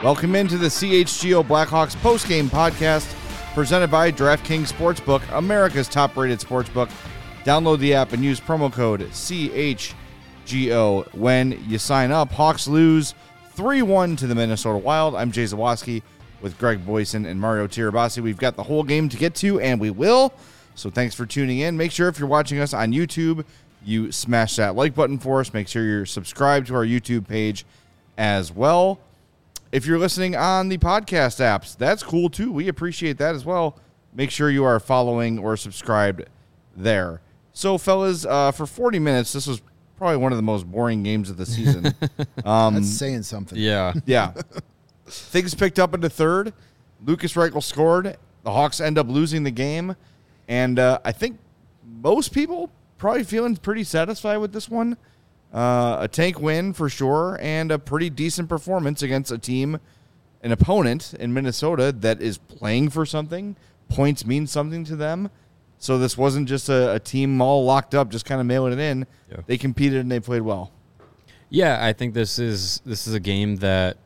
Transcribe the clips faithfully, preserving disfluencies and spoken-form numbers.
Welcome into the C H G O Blackhawks postgame podcast presented by DraftKings Sportsbook, America's top-rated sportsbook. Download the app and use promo code C H G O when you sign up. Hawks lose three one to the Minnesota Wild. I'm Jay Zawaski with Greg Boyson and Mario Tirabassi. We've got the whole game to get to, and we will. So thanks for tuning in. Make sure if you're watching us on YouTube, you smash that like button for us. Make sure you're subscribed to our YouTube page as well. If you're listening on the podcast apps, that's cool too. We appreciate that as well. Make sure you are following or subscribed there. So, fellas, uh, for forty minutes, this was probably one of the most boring games of the season. Um, That's saying something. Yeah. Yeah. Things picked up in the third. Lucas Reichel scored. The Hawks end up losing the game. And uh, I think most people probably feeling pretty satisfied with this one. Uh, a tank win for sure, and a pretty decent performance against a team, an opponent in Minnesota that is playing for something. Points mean something to them. So this wasn't just a, a team all locked up, just kind of mailing it in. Yeah. They competed and they played well. Yeah, I think this is this is a game that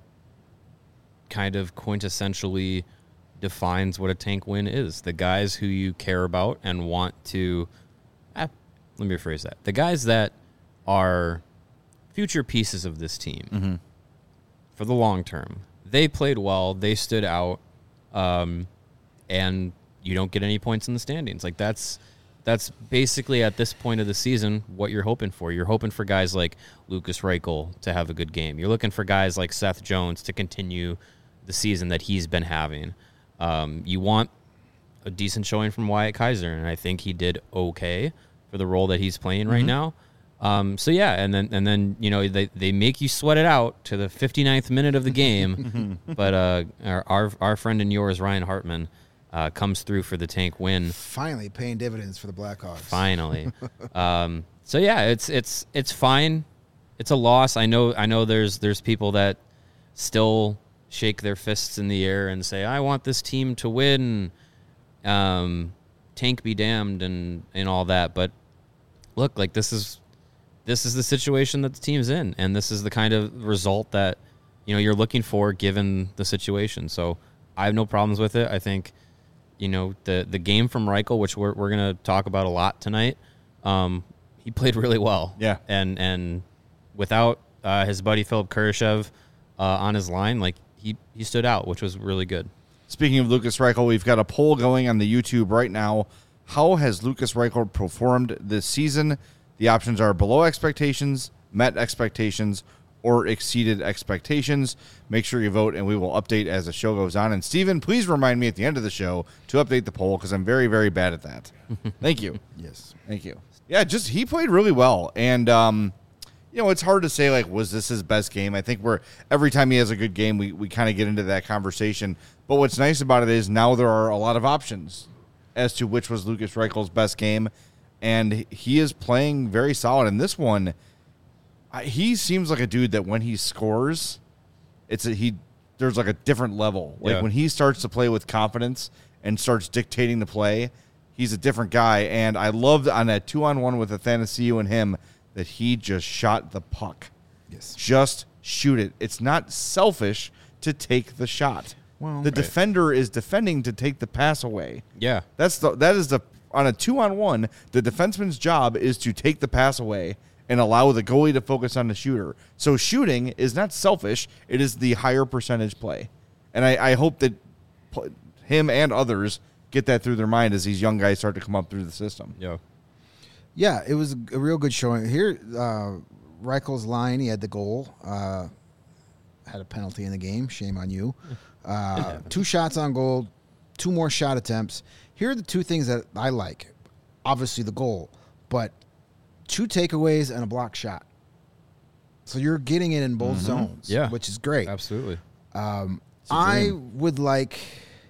kind of quintessentially defines what a tank win is. The guys who you care about and want to, ah, let me rephrase that. The guys that are future pieces of this team mm-hmm. for the long term. They played well. They stood out, um, and you don't get any points in the standings. Like that's that's basically at this point of the season what you're hoping for. You're hoping for guys like Lucas Reichel to have a good game. You're looking for guys like Seth Jones to continue the season that he's been having. Um, you want a decent showing from Wyatt Kaiser, and I think he did okay for the role that he's playing mm-hmm. right now. Um, so yeah, and then and then you know they, they make you sweat it out to the fifty-ninth minute of the game, but uh, our, our our friend and yours Ryan Hartman uh, comes through for the tank win. Finally paying dividends for the Blackhawks. Finally, um, so yeah, it's it's it's fine. It's a loss. I know I know there's there's people that still shake their fists in the air and say I want this team to win, um, tank be damned and and all that. But look, like this is. This is the situation that the team's in, and this is the kind of result that, you know, you're looking for given the situation. So I have no problems with it. I think, you know, the the game from Reichel, which we're we're going to talk about a lot tonight, um, he played really well. Yeah. And and without uh, his buddy Philip Kurashev uh, on his line, like he, he stood out, which was really good. Speaking of Lucas Reichel, we've got a poll going on the YouTube right now. How has Lucas Reichel performed this season? The options are below expectations, met expectations, or exceeded expectations. Make sure you vote, and we will update as the show goes on. And, Steven, please remind me at the end of the show to update the poll because I'm very, very bad at that. Thank you. Yes. Thank you. Yeah, just he played really well. And, um, you know, it's hard to say, like, was this his best game? I think we're every time he has a good game, we, we kind of get into that conversation. But what's nice about it is now there are a lot of options as to which was Lucas Reichel's best game. And he is playing very solid. And this one, he seems like a dude that when he scores, it's a, he there's like a different level. Like yeah. when he starts to play with confidence and starts dictating the play, he's a different guy. And I loved on that two-on-one with Athanasiou and him that he just shot the puck. Yes. Just shoot it. It's not selfish to take the shot. Well, the right. defender is defending to take the pass away. Yeah. That's the that is the on a two-on-one, the defenseman's job is to take the pass away and allow the goalie to focus on the shooter. So shooting is not selfish. It is the higher percentage play. And I, I hope that him and others get that through their mind as these young guys start to come up through the system. Yeah. Yeah, it was a real good showing. Here, uh, Reichel's line, he had the goal, uh, had a penalty in the game. Shame on you. Uh, two shots on goal, two more shot attempts. Here are the two things that I like. Obviously the goal, but two takeaways and a block shot. So you're getting it in both mm-hmm. zones, yeah. which is great. Absolutely. Um, I would like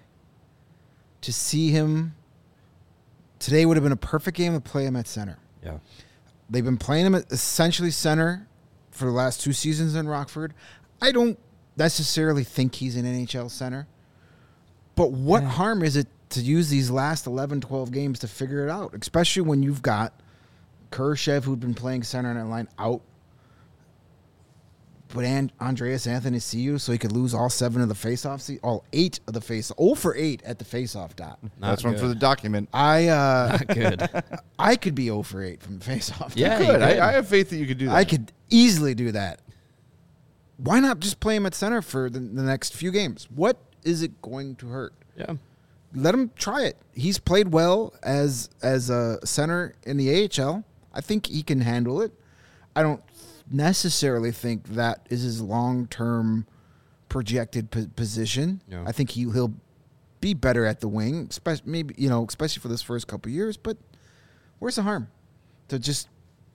to see him. Today would have been a perfect game to play him at center. Yeah. They've been playing him at essentially center for the last two seasons in Rockford. I don't necessarily think he's an N H L center. But what yeah. harm is it to use these last eleven, twelve games to figure it out, especially when you've got Kurashev, who'd been playing center on that line, out. put An- Andreas Anthony see you so he could lose all seven of the faceoffs, all eight of the face, oh for eight at the faceoff dot. That's one for the document. I uh, Not good. I could be oh for eight from the faceoff. Yeah, Good. you could. I, I have faith that you could do that. I could easily do that. Why not just play him at center for the, the next few games? What is it going to hurt? Yeah. Let him try it. He's played well as as a center in the A H L. I think he can handle it. I don't necessarily think that is his long-term projected po- position. No. I think he he'll be better at the wing, especially maybe you know, especially for this first couple of years. But where's the harm to just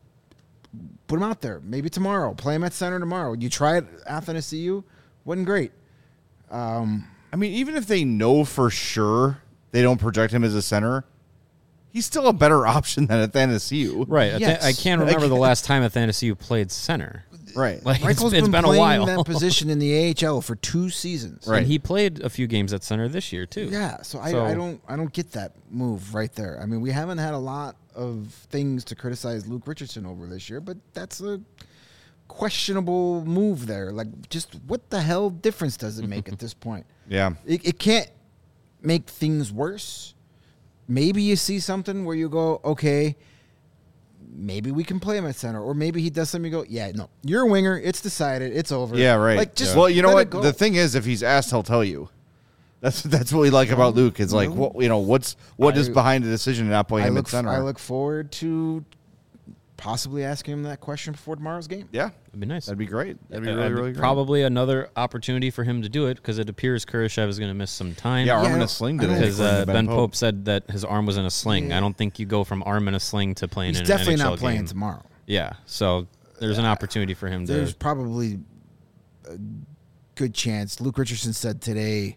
put him out there? Maybe tomorrow, play him at center tomorrow. You try it, Athanasiou, wasn't great. Um, I mean, even if they know for sure they don't project him as a center, he's still a better option than Athanasiou. Right. Yes. I, I can't remember the last time Athanasiou played center. Right. Like, it's, Reichel's it's been, been a playing while. that position in the A H L for two seasons. Right. And he played a few games at center this year, too. Yeah, so I, So- I don't I don't get that move right there. I mean, we haven't had a lot of things to criticize Luke Richardson over this year, but that's a questionable move there. Like, just what the hell difference does it make at this point? Yeah. It, it can't make things worse. Maybe you see something where you go, okay, maybe we can play him at center, or maybe he does something. You go, yeah, no, you're a winger. It's decided. It's over. Yeah, right. Like, just Well, you know let what? it go. The thing is, if he's asked, he'll tell you. That's that's what we like about Luke. It's like, what you know, what's what is I- behind the decision to not play I him look, at center? I look forward to possibly asking him that question before tomorrow's game. yeah, That'd be nice. that'd be great. That'd be Uh, really, uh, really great. Probably another opportunity for him to do it because it appears Kurashev is going to miss some time. Yeah, arm Yeah, I in a don't- sling I today. don't- Because according uh, to Ben Pope. said that his arm was in a sling. Yeah. I don't think you go from arm in a sling to playing He's in definitely an N H L not playing game. tomorrow. Yeah, so there's an opportunity for him There's to. probably a good chance. Luke Richardson said today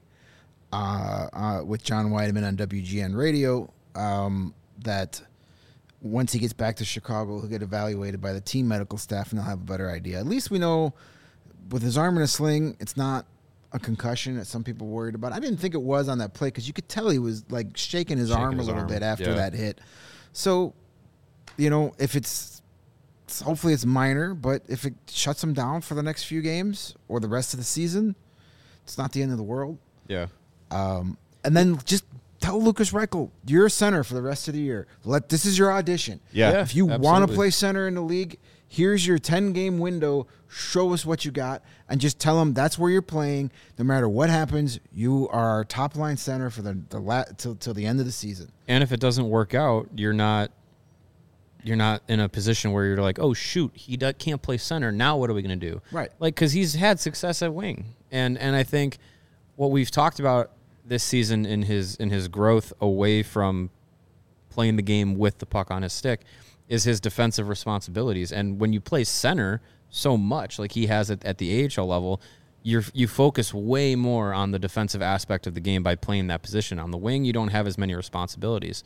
uh, uh, with John Weideman on W G N Radio um, that once he gets back to Chicago, he'll get evaluated by the team medical staff and they'll have a better idea. At least we know with his arm in a sling, it's not a concussion that some people worried about. I didn't think it was on that play because you could tell he was like shaking his Shaking arm a his little arm, bit after yeah. that hit. So, you know, if it's it's- hopefully it's minor, but if it shuts him down for the next few games or the rest of the season, it's not the end of the world. Yeah. Um, and then just tell Lucas Reichel, you're a center for the rest of the year. Let this is your audition. Yeah. Yeah. If you want to absolutely. play center in the league, here's your ten-game window. Show us what you got, and just tell them that's where you're playing. No matter what happens, you are our top-line center for the the la- till till the end of the season. And if it doesn't work out, you're not you're not in a position where you're like, oh shoot, he do- can't play center. Now what are we going to do? Right. Like because he's had success at wing, and and I think what we've talked about this season in his in his growth away from playing the game with the puck on his stick is his defensive responsibilities. And when you play center so much, like he has it at the A H L level, you you focus way more on the defensive aspect of the game by playing that position. On the wing, you don't have as many responsibilities.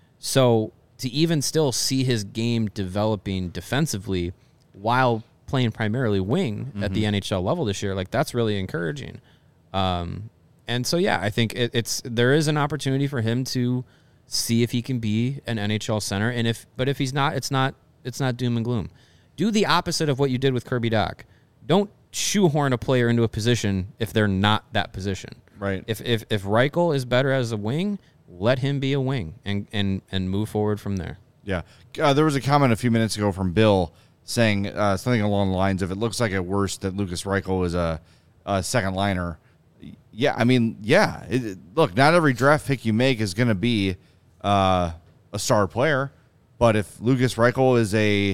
So to even still see his game developing defensively while playing primarily wing mm-hmm. at the N H L level this year, like that's really encouraging. Um, and so, yeah, I think it, it's there is an opportunity for him to see if he can be an N H L center. And if but if he's not, it's not it's not doom and gloom. Do the opposite of what you did with Kirby Dach. Don't shoehorn a player into a position if they're not that position. Right. If if if Reichel is better as a wing, let him be a wing and and and move forward from there. Yeah. Uh, there was a comment a few minutes ago from Bill saying uh, something along the lines of, it looks like at worst that Lucas Reichel is a, a second liner. Yeah, I mean, yeah. It, it- look, not every draft pick you make is going to be uh, a star player. But if Lucas Reichel is a,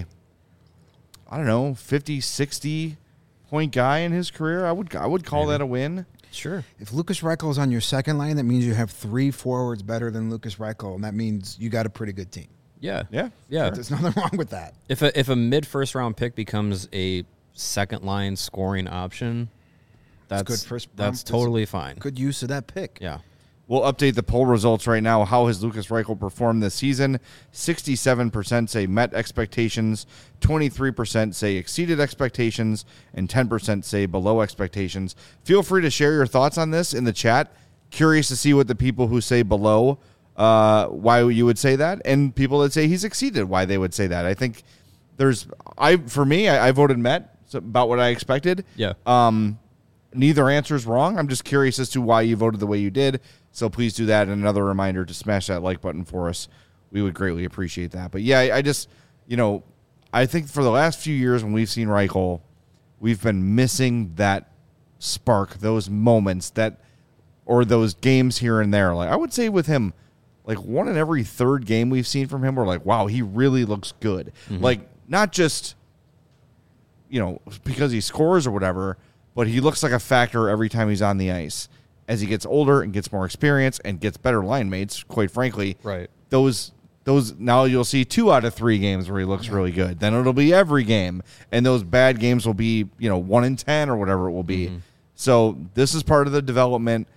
I don't know, fifty, sixty point guy in his career, I would I would call Maybe. that a win. Sure. If Lucas Reichel is on your second line, that means you have three forwards better than Lucas Reichel, and that means you got a pretty good team. Yeah. Yeah. Yeah. There's nothing wrong with that. If a if a mid first round pick becomes a second line scoring option, that's good first round. that's That's totally fine. Good use of that pick. Yeah. We'll update the poll results right now. How has Lucas Reichel performed this season? sixty-seven percent say met expectations, twenty-three percent say exceeded expectations, and ten percent say below expectations. Feel free to share your thoughts on this in the chat. Curious to see what the people who say below, uh, why you would say that, and people that say he's exceeded, why they would say that. I think there's, I for me, I, I voted met. So about what I expected. Yeah. Um, neither answer is wrong. I'm just curious as to why you voted the way you did. So please do that. And another reminder to smash that like button for us. We would greatly appreciate that. But yeah, I, I just, you know, I think for the last few years when we've seen Reichel, we've been missing that spark, those moments that, or those games here and there. Like I would say with him, like one in every third game we've seen from him, we're like, wow, he really looks good. Mm-hmm. Like not just, you know, because he scores or whatever, but he looks like a factor every time he's on the ice. As he gets older and gets more experience and gets better line mates, quite frankly, right. Those those now you'll see two out of three games where he looks really good. Then it'll be every game, and those bad games will be, you know, one in ten or whatever it will be. Mm-hmm. So this is part of the development.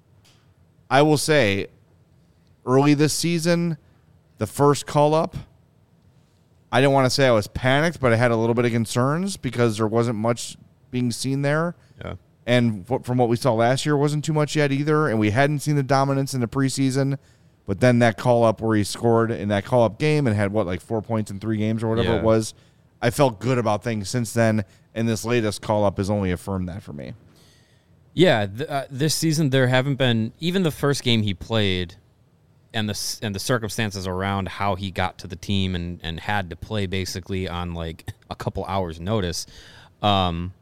I will say, early this season, the first call up, I didn't want to say I was panicked, but I had a little bit of concerns because there wasn't much being seen there. Yeah. And from what we saw last year, wasn't too much yet either. And we hadn't seen the dominance in the preseason. But then that call-up where he scored in that call-up game and had, what, like four points in three games or whatever yeah. it was, I felt good about things since then. And this latest call-up has only affirmed that for me. Yeah, th- uh, this season there haven't been, even the first game he played and the and the circumstances around how he got to the team and, and had to play basically on like a couple hours notice. Um,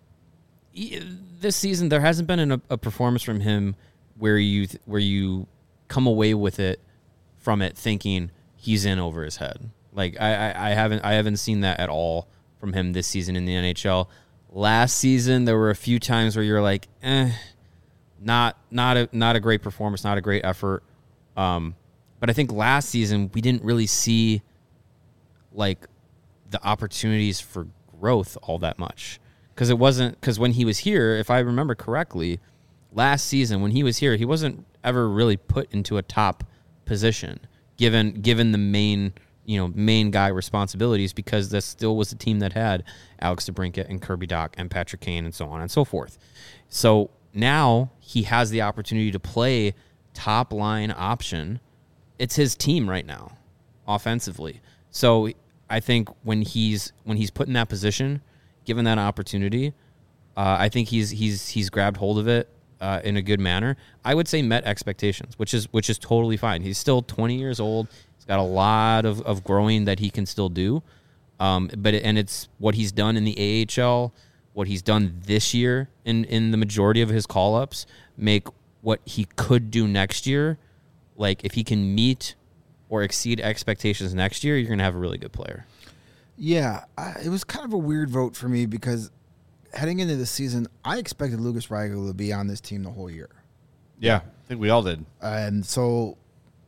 this season there hasn't been an, a performance from him where you th- where you come away with it from it thinking he's in over his head. Like I, I, I haven't I haven't seen that at all from him this season in the N H L. Last season there were a few times where you're like, eh, not not a not a great performance, not a great effort. Um, but I think last season we didn't really see like the opportunities for growth all that much. Because it wasn't because when he was here, if I remember correctly, last season when he was here, he wasn't ever really put into a top position, given given the main you know main guy responsibilities, because that still was a team that had Alex DeBrincat and Kirby Dach and Patrick Kane and so on and so forth. So now he has the opportunity to play top line option. It's his team right now, offensively. So I think when he's when he's put in that position, given that opportunity, uh, I think he's he's he's grabbed hold of it uh, in a good manner. I would say met expectations, which is which is totally fine. He's still twenty years old. He's got a lot of, of growing that he can still do. Um, but it, and it's what he's done in the A H L, what he's done this year in, in the majority of his call-ups make what he could do next year. Like if he can meet or exceed expectations next year, you're going to have a really good player. Yeah, I, it was kind of a weird vote for me because heading into the season, I expected Lukas Reichel to be on this team the whole year. Yeah, I think we all did. And so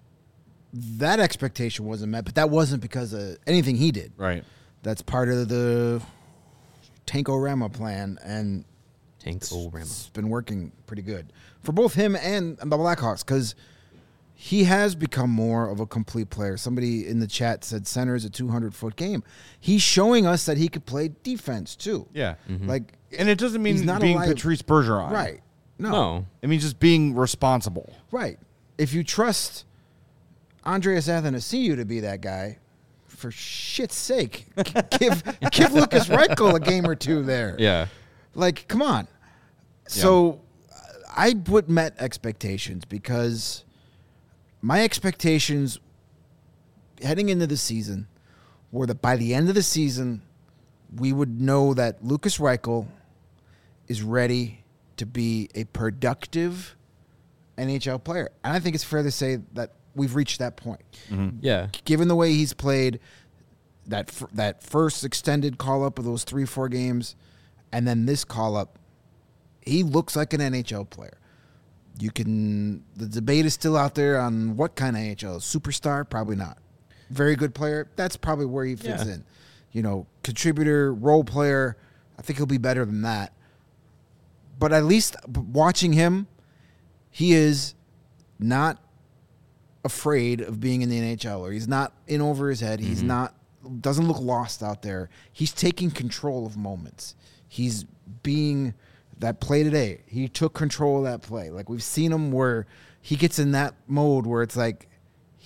that expectation wasn't met, but that wasn't because of anything he did. Right. That's part of the Tankorama plan, and Tankorama. It's been working pretty good for both him and the Blackhawks because he has become more of a complete player. Somebody in the chat said center is a two hundred foot game. He's showing us that he could play defense too. Yeah. Mm-hmm. Like, and it doesn't mean not being alive. Patrice Bergeron. Right. No. No. It means just being responsible. Right. If you trust Andreas Athanasiou to be that guy, for shit's sake, give give Lukas Reichel a game or two there. Yeah. Like, come on. So I would met expectations because my expectations heading into the season were that by the end of the season, we would know that Lukas Reichel is ready to be a productive N H L player. And I think it's fair to say that we've reached that point. Mm-hmm. Yeah. Given the way he's played, that f- that first extended call-up of those three, four games, and then this call-up, he looks like an N H L player. You can, the debate is still out there on what kind of N H L. Superstar? Probably not. Very good player? That's probably where he fits Yeah. in. You know, contributor, role player, I think he'll be better than that. But at least watching him, he is not afraid of being in the N H L, or he's not in over his head. He's mm-hmm. not, doesn't look lost out there. He's taking control of moments. He's being, that play today, he took control of that play. Like we've seen him where he gets in that mode where it's like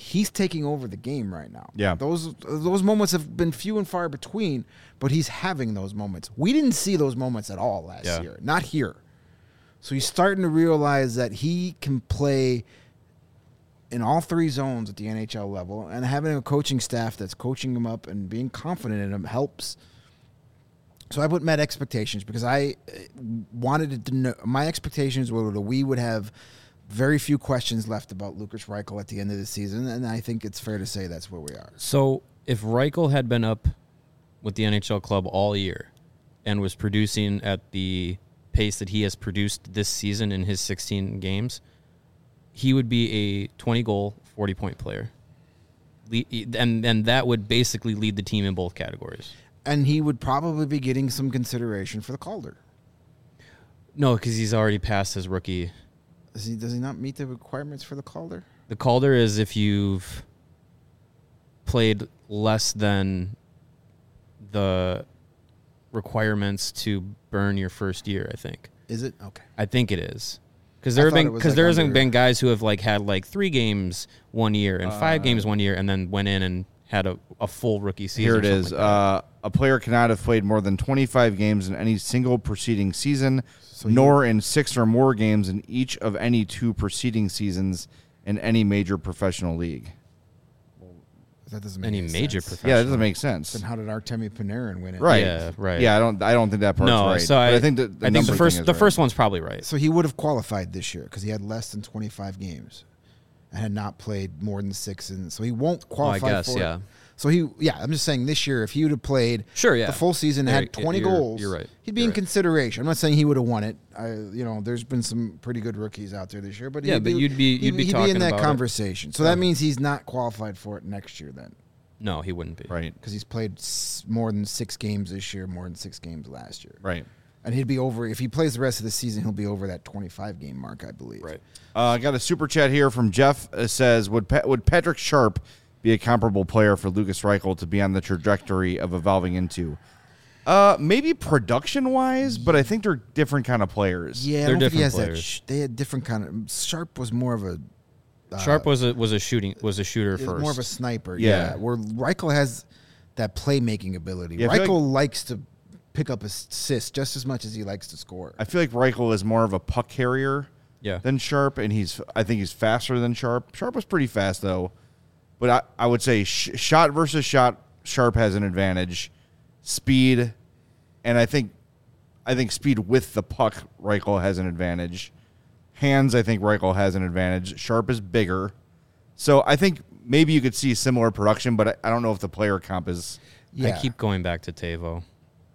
he's taking over the game right now. Yeah. Those those moments have been few and far between, but he's having those moments. We didn't see those moments at all last Yeah. year. Not here. So he's starting to realize that he can play in all three zones at the N H L level, and having a coaching staff that's coaching him up and being confident in him helps. So I put met expectations because I wanted to know. My expectations were that we would have very few questions left about Lukas Reichel at the end of the season, and I think it's fair to say that's where we are. So if Reichel had been up with the N H L club all year and was producing at the pace that he has produced this season in his sixteen games, he would be a twenty-goal, forty-point player. Le- And, and that would basically lead the team in both categories. And he would probably be getting some consideration for the Calder. No, because he's already passed his rookie. Does he, does he not meet the requirements for the Calder? The Calder is if you've played less than the requirements to burn your first year, I think. Is it? Okay. I think it is. Because I there have thought it been was because like there hasn't under- been guys who have like had like three games one year and five Uh, games one year and then went in and had a, a full rookie season. Here or it something is. like that. Uh, a player cannot have played more than twenty-five games in any single preceding season, So you- nor in six or more games in each of any two preceding seasons in any major professional league. That doesn't make Any any major sense. professional. Yeah, that doesn't make sense. Then how did Artemi Panarin win it? Right. Yeah, right. Yeah, I don't. I don't think that part's no, right. so But I, I think that the I think the number first thing is the right. first one's probably right. So he would have qualified this year because he had less than twenty-five games and had not played more than six. And so he won't Well, I qualify guess, for yeah. it. So he, yeah, I'm just saying this year, if he would have played Sure, yeah. the full season and Yeah, had twenty you're- goals, you're right. he'd be You're in right. consideration. I'm not saying he would have won it. I, you know, there's been some pretty good rookies out there this year, but Yeah, he'd but you'd be- he'd, you'd be he'd talking in that about it. conversation. So that means he's not qualified for it next year then, No, he wouldn't be. Right. because he's played s- more than six games this year, more than six games last year. Right. And he'd be over, if he plays the rest of the season, he'll be over that twenty-five game mark, I believe. Right. Uh, I got a super chat here from Jeff. It says, would Pa- would Patrick Sharp be a comparable player for Lukas Reichel to be on the trajectory of evolving into? Uh, maybe production-wise, but I think they're different kind of players. Yeah, I They're don't think he different has that. players. Sh- they had different kind of. Sharp was more of a. Uh, Sharp was a was a shooting was a shooter is first. more of a sniper. Yeah. Yeah, where Reichel has that playmaking ability. Yeah, I feel Reichel likes to pick up assists just as much as he likes to score. I feel like Reichel is more of a puck carrier yeah. than Sharp, and he's I think he's faster than Sharp. Sharp was pretty fast, though. But I, I would say sh- shot versus shot, Sharp has an advantage. Speed, and I think I think speed with the puck, Reichel has an advantage. Hands, I think Reichel has an advantage. Sharp is bigger. So I think maybe you could see similar production, but I, I don't know if the player comp is... Yeah, I keep going back to Tavo.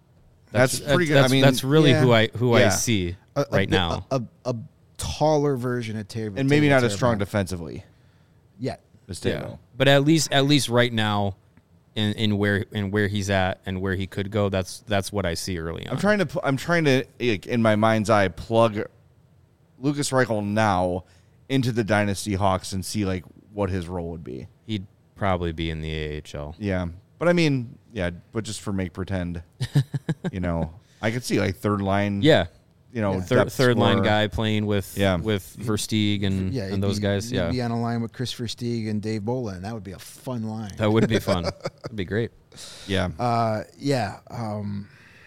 That's pretty good. I That's, mean, that's really yeah. who I who Yeah. I see A- a right bit- now. A, a, a taller version of Taylor, and maybe Taylor not as strong Teravainen. defensively yet. as Yeah. Tavo. But at least at least right now, in, in where in where he's at and where he could go, that's that's what I see early on. I'm trying to pu- I'm trying to like, in my mind's eye plug Lukas Reichel now into the Dynasty Hawks and see like what his role would be. He'd probably be in the A H L. Yeah, but I mean, yeah, but just for make pretend, you know, I could see like third line. Yeah, you know, Yeah. third depth third line scorer. guy playing with Yeah. with Versteeg and Yeah, and he'd those be- guys. he'd Yeah, be on a line with Chris Versteeg and Dave Bolin. That would be a fun line. that would be fun. That'd be great. Yeah, Uh, yeah. Um,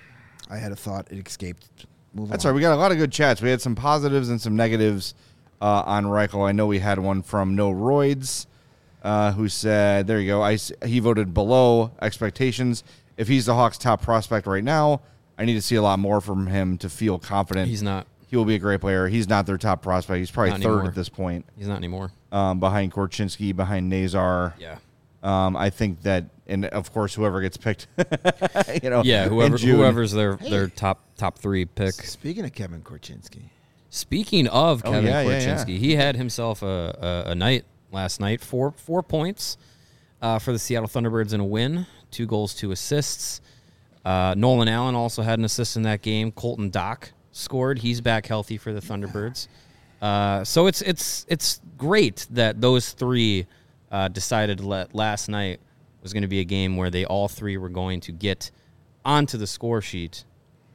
I had a thought. It escaped. Move that's on. right. We got a lot of good chats. We had some positives and some negatives uh, on Reichel. I know we had one from No Roids, uh, who said, "There you go. I s- he voted below expectations. If he's the Hawks' top prospect right now, I need to see a lot more from him to feel confident. He's not. He will be a great player. He's not their top prospect. He's probably Not third anymore. at this point, He's not anymore. um, behind Korchinski, behind Nazar. Yeah. Um, I think that, and of course, whoever gets picked, you know, Yeah. in Whoever June. whoever's their their top top three pick. Speaking of Kevin Korchinski, Speaking of Oh, Kevin yeah, yeah, Korchinski, yeah. he had himself a, a, a night last night. Four four points uh, for the Seattle Thunderbirds in a win. Two goals, two assists. Uh, Nolan Allen also had an assist in that game. Colton Dock scored. He's back healthy for the Thunderbirds. Uh, so it's it's it's great that those three uh, decided to let last night was going to be a game where they all three were going to get onto the score sheet,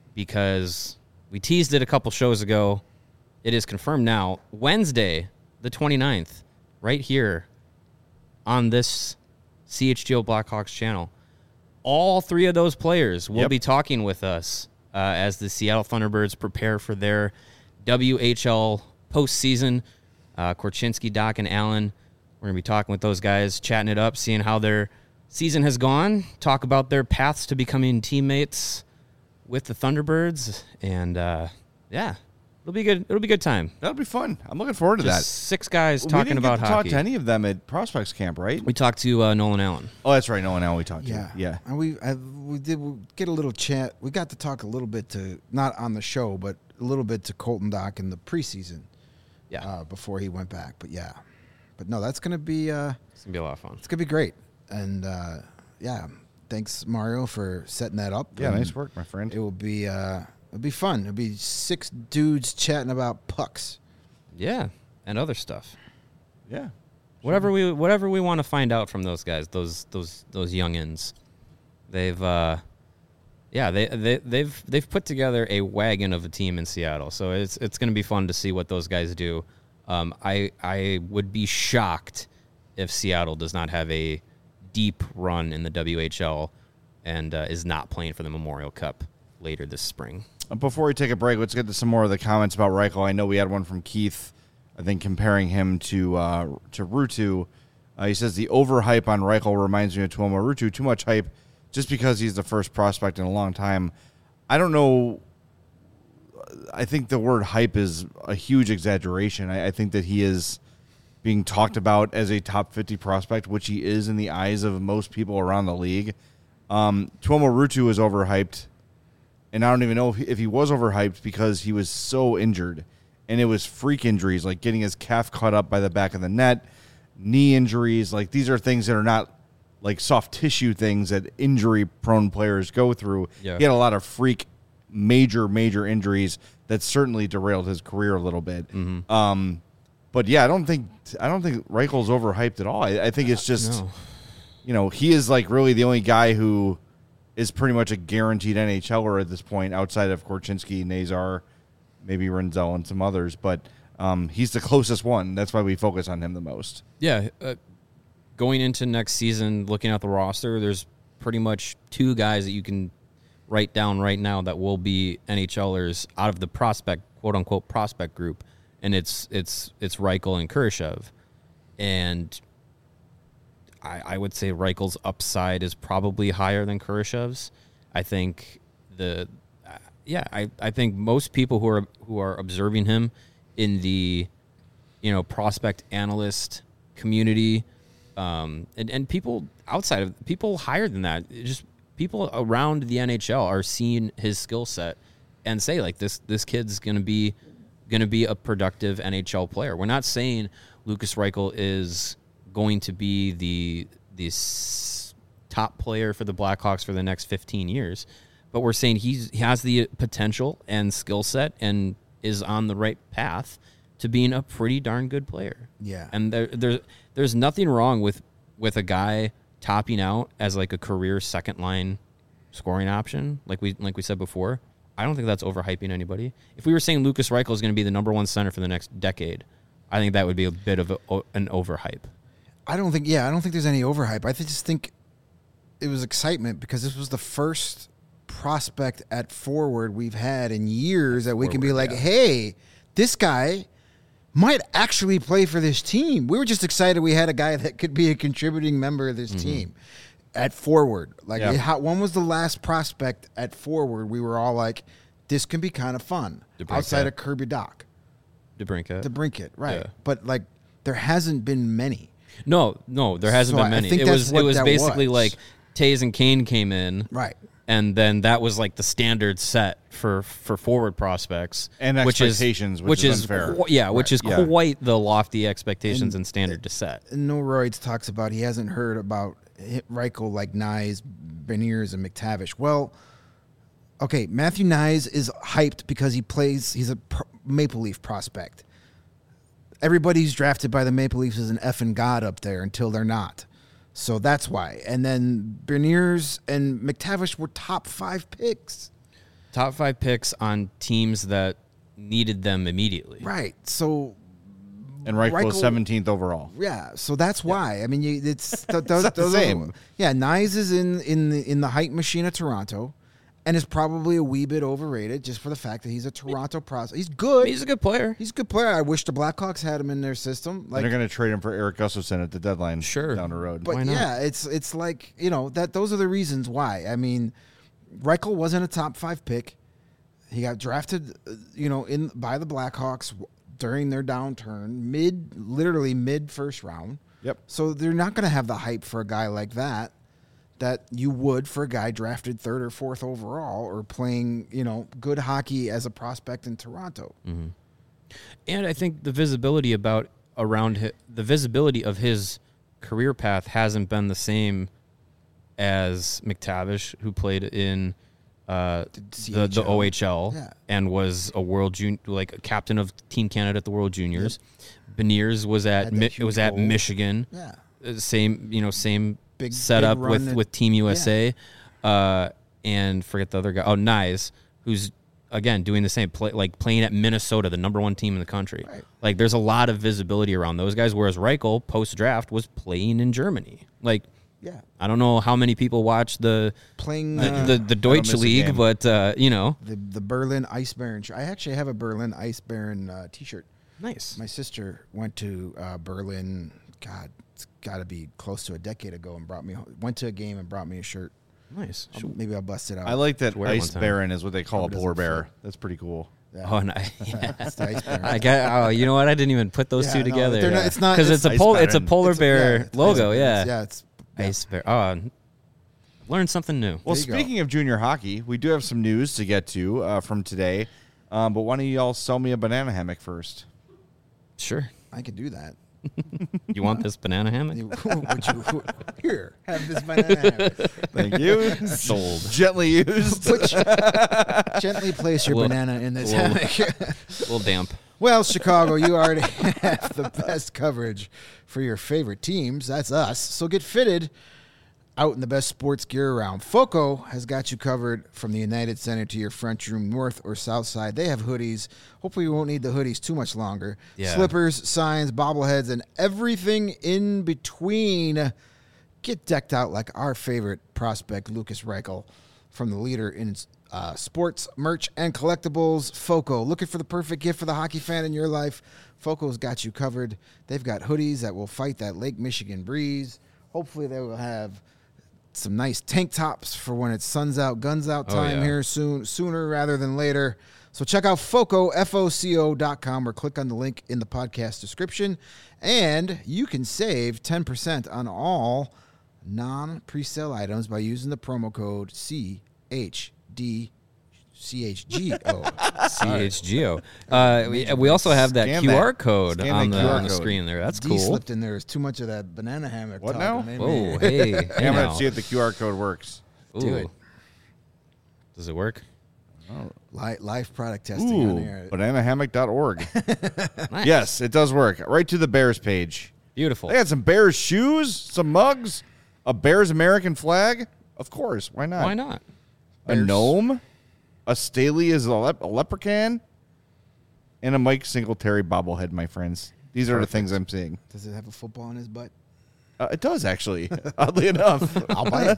because we teased it a couple shows ago. It is confirmed now. Wednesday, the twenty-ninth, right here on this C H G O Blackhawks channel. All three of those players will Yep. be talking with us uh, as the Seattle Thunderbirds prepare for their W H L postseason. Uh, Korchinski, Doc, and Allen, we're going to be talking with those guys, chatting it up, seeing how their season has gone, talk about their paths to becoming teammates with the Thunderbirds, and uh, yeah, it'll be good. It'll be a good time. That'll be fun. I'm looking forward to Just that. six guys we talking didn't about get to hockey. talk to any of them at Prospects Camp, right? We talked to uh, Nolan Allen. Oh, that's right. No one else we talked Yeah, to. Yeah. And we I, we did we get a little chat. We got to talk a little bit to not on the show, but a little bit to Colton Doc in the preseason. Yeah, Uh, before he went back, but yeah, but no, that's gonna be uh, it's gonna be a lot of fun. it's gonna be great, and uh, yeah, thanks Mario for setting that up. Yeah, And nice work, my friend. It will be uh, it'll be fun. It'll be six dudes chatting about pucks. Yeah, and other stuff. Yeah. Whatever we whatever we want to find out from those guys, those those those youngins, they've uh, yeah they they they've they've put together a wagon of a team in Seattle. So it's it's going to be fun to see what those guys do. Um, I I would be shocked if Seattle does not have a deep run in the W H L and uh, is not playing for the Memorial Cup later this spring. Uh, Before we take a break, let's get to some more of the comments about Reichel. I know we had one from Keith, I think, comparing him to uh, to Ruutu. Uh, he says the overhype on Reichel reminds me of Tuomo Ruutu. Too much hype just because he's the first prospect in a long time. I don't know. I think the word hype is a huge exaggeration. I, I think that he is being talked about as a top fifty prospect, which he is in the eyes of most people around the league. Um, Tuomo Ruutu is overhyped. And I don't even know if he, if he was overhyped because he was so injured. And it was freak injuries, like getting his calf cut up by the back of the net, knee injuries. Like, these are things that are not like soft tissue things that injury-prone players go through. Yeah. He had a lot of freak, major, major injuries that certainly derailed his career a little bit. Mm-hmm. Um, but, yeah, I don't think I don't think Reichel's overhyped at all. I, I think it's just, No. you know, he is like really the only guy who is pretty much a guaranteed N H L er at this point, outside of Korchinski, Nazar, maybe Renzel, and some others. But um, he's the closest one. That's why we focus on him the most. Yeah, uh, going into next season, looking at the roster, there's pretty much two guys that you can write down right now that will be N H L ers out of the prospect, quote unquote, prospect group, and it's it's it's Reichel and Kurashev, and I, I would say Reichel's upside is probably higher than Kurashev's. I think the uh, yeah, I, I think most people who are who are observing him in the you know prospect analyst community, um, and and people outside of people higher than that, just people around the N H L are seeing his skill set and say like this this kid's gonna be gonna be a productive N H L player. We're not saying Lukas Reichel is going to be the the s- top player for the Blackhawks for the next fifteen years, but we're saying he's he has the potential and skill set and is on the right path to being a pretty darn good player. Yeah. And there there there's nothing wrong with with a guy topping out as like a career second line scoring option, like we like we said before. I don't think that's overhyping anybody. If we were saying Lukas Reichel is going to be the number one center for the next decade, I think that would be a bit of a, an overhype. I don't think, yeah, I don't think there's any overhype. I just think it was excitement because this was the first prospect at forward we've had in years that we can be forward, like, yeah. hey, this guy might actually play for this team. We were just excited we had a guy that could be a contributing member of this Mm-hmm. team at forward. Like, Yeah. how, when was the last prospect at forward we were all like, this can be kind of fun DeBrincat. outside of Kirby Doc, DeBrincat. to brink it, right? Yeah. But, like, there hasn't been many. No, no, there hasn't So been I many. think It that's was what it was that basically was. like Taze and Kane came in, Right. and then that was like the standard set for, for forward prospects And which expectations, is, which is is unfair. qu- yeah, which is yeah. quite the lofty expectations and, And- standard to set. No Roids talks about he hasn't heard about Reichel like Nyes, Beniers, and McTavish. Well, okay, Matthew Nyes is hyped because he plays. He's a pr- Maple Leaf prospect. Everybody who's drafted by the Maple Leafs is an effing god up there until they're not. So that's why. And then Beniers and McTavish were top five picks. Top five picks on teams that needed them immediately. Right. So And Reichel, Reichel- was seventeenth overall. Yeah, so that's why. I mean, you, it's, th- those, not the those are- same. yeah, Nyes is in in the in the hype machine of Toronto, and is probably a wee bit overrated just for the fact that he's a Toronto prospect. He's good. He's a good player. He's a good player. I wish the Blackhawks had him in their system. And Like, they're going to trade him for Eric Gustafsson at the deadline Sure. down the road. but why not? yeah, it's it's like you know that those are the reasons why. I mean, Reichel wasn't a top five pick. He got drafted, uh, you know, in by the Blackhawks during their downturn, mid, literally mid first round. Yep. So they're not going to have the hype for a guy like that that you would for a guy drafted third or fourth overall or playing, you know, good hockey as a prospect in Toronto. Mm-hmm. And I think the visibility about around hi- the visibility of his career path hasn't been the same as McTavish, who played in uh, the, the O H L Yeah. and was a world jun- like a captain of Team Canada at the World Juniors. Beniers was at Had that Mi- it huge was at role. Michigan. Yeah. Uh, Same you know same Big- setup big run with that- with Team U S A, uh, and forget the other guy. Oh, Nyes, who's again doing the same play, like playing at Minnesota, the number one team in the country. Right. Like there's a lot of visibility around those guys. Whereas Reichel post draft was playing in Germany. Like Yeah. I don't know how many people watch the Playing the, uh, the, the Deutsche miss a League, game. but uh, you know, the the Berlin Ice Baron. sh- I actually have a Berlin Ice Baron uh, T-shirt. nice. My sister went to uh, Berlin. God, it's got to be close to a decade ago, and brought me ho- went to a game and brought me a shirt. Nice. I'll- maybe I'll bust it out. I like that wear it Ice one time. Baron is what they call Hope a it polar doesn't bear. fit. That's pretty cool. Yeah. Oh, nice. It's the Ice Baron. I got. Oh, you know what? I didn't even put those Yeah, two no, together. they're not- it's not- because it's it's, a Ice pol- It's a Baron. polar It's a- bear yeah, it's logo. Ice- Yeah. yeah. It's yeah. Ice bear. Oh, learn something new. Well, There you go. speaking of junior hockey, we do have some news to get to uh, from today. Um, but why don't you all sell me a banana hammock first? Sure. I could do that. You want this banana hammock? You- would you, here, have this banana hammock. Thank you. Sold. Gently used. Put your- gently place your Well- banana in this well- hammock. A little damp. Well, Chicago, you already have the best coverage for your favorite teams. That's us. So get fitted out in the best sports gear around. Foco has got you covered from the United Center to your French room, north or south side. They have hoodies. Hopefully you won't need the hoodies too much longer. Yeah. Slippers, signs, bobbleheads, and everything in between. Get decked out like our favorite prospect, Lucas Reichel, from the leader in uh, sports, merch, and collectibles, Foco. Looking for the perfect gift for the hockey fan in your life? Foco's got you covered. They've got hoodies that will fight that Lake Michigan breeze. Hopefully they will have some nice tank tops for when it's suns out, guns out Oh, time yeah. here soon, sooner rather than later. So check out Foco, F O C O dot com, or click on the link in the podcast description. And you can save ten percent on all non-presale items by using the promo code C H D C H G O. C H G O. Uh, we, we also have that Scan Q R that. code Scan on that the, Q R on the code. screen there. That's D cool. slipped in there. There's too much of that banana hammock. What talk. now? Hey, Whoa, man. hey. Hey, I'm now. going to see if the Q R code works. Do Ooh. it. Does it work? Li- Live product testing on Ooh, air. banana hammock dot org. Nice. Yes, it does work. Right to the Bears page. Beautiful. They had some Bears shoes, some mugs, a Bears American flag. Of course, why not? Why not? A gnome, a Staley is a, lep- a leprechaun, and a Mike Singletary bobblehead, my friends. These are the things I'm seeing. Does it have a football in his butt? Uh, it does, actually, oddly enough. I'll buy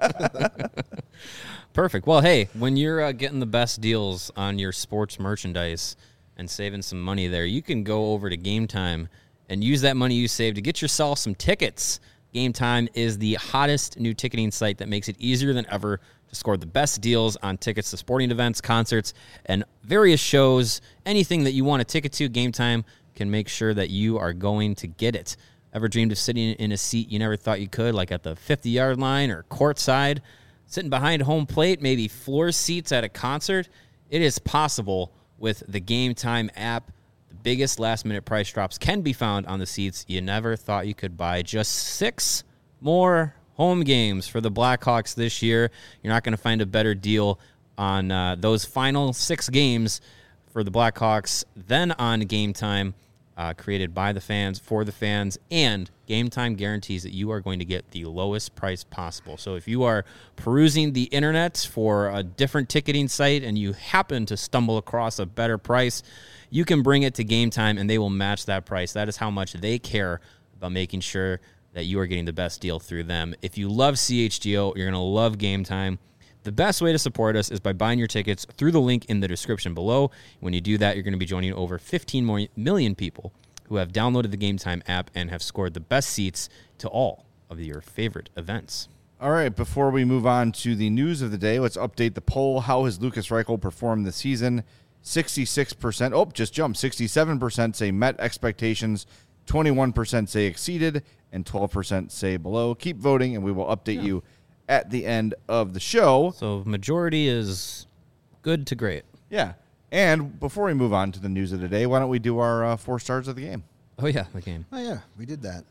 it. Perfect. Well, hey, when you're uh, getting the best deals on your sports merchandise and saving some money there, you can go over to Game Time and use that money you save to get yourself some tickets. Game Time is the hottest new ticketing site that makes it easier than ever to score the best deals on tickets to sporting events, concerts, and various shows. Anything that you want a ticket to, Game Time can make sure that you are going to get it. Ever dreamed of sitting in a seat you never thought you could, like at the fifty-yard line or courtside? Sitting behind home plate, maybe floor seats at a concert? It is possible with the Game Time app. The biggest last-minute price drops can be found on the seats you never thought you could buy. Just six more home games for the Blackhawks this year. You're not going to find a better deal on uh, those final six games for the Blackhawks than on Game Time. uh, created by the fans, for the fans, and Game Time guarantees that you are going to get the lowest price possible. So if you are perusing the internet for a different ticketing site and you happen to stumble across a better price, you can bring it to Game Time and they will match that price. That is how much they care about making sure that you are getting the best deal through them. If you love C H G O, you're going to love Game Time. The best way to support us is by buying your tickets through the link in the description below. When you do that, you're going to be joining over fifteen million people who have downloaded the Game Time app and have scored the best seats to all of your favorite events. All right, before we move on to the news of the day, let's update the poll. How has Lukas Reichel performed this season? sixty-six percent, oh, just jumped. sixty-seven percent say met expectations, twenty-one percent say exceeded, and twelve percent say below. Keep voting, and we will update yeah. you at the end of the show. So majority is good to great. Yeah. And before we move on to the news of the day, why don't we do our uh, four stars of the game? Oh, yeah, the game. Oh, yeah, we did that.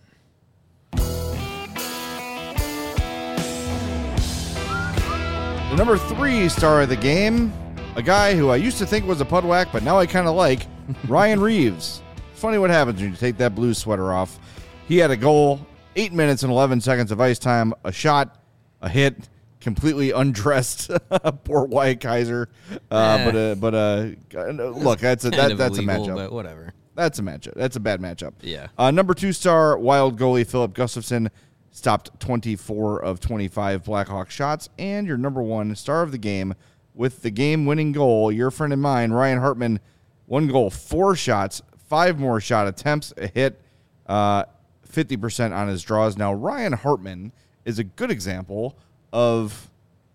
The number three star of the game, a guy who I used to think was a pudwack, but now I kind of like, Ryan Reeves. Funny what happens when you take that blue sweater off. He had a goal, eight minutes and eleven seconds of ice time, a shot, a hit, completely undressed. Poor Wyatt Kaiser. Uh, eh. But uh, but uh, look, that's a that, that's illegal, a matchup. But whatever. That's a matchup. That's a bad matchup. Yeah. Uh, number two star, Wild goalie Philip Gustafsson stopped twenty-four of twenty-five Blackhawk shots, and your number one star of the game with the game-winning goal, your friend and mine, Ryan Hartman, one goal, four shots, five more shot attempts, a hit, uh, fifty percent on his draws. Now, Ryan Hartman is a good example of,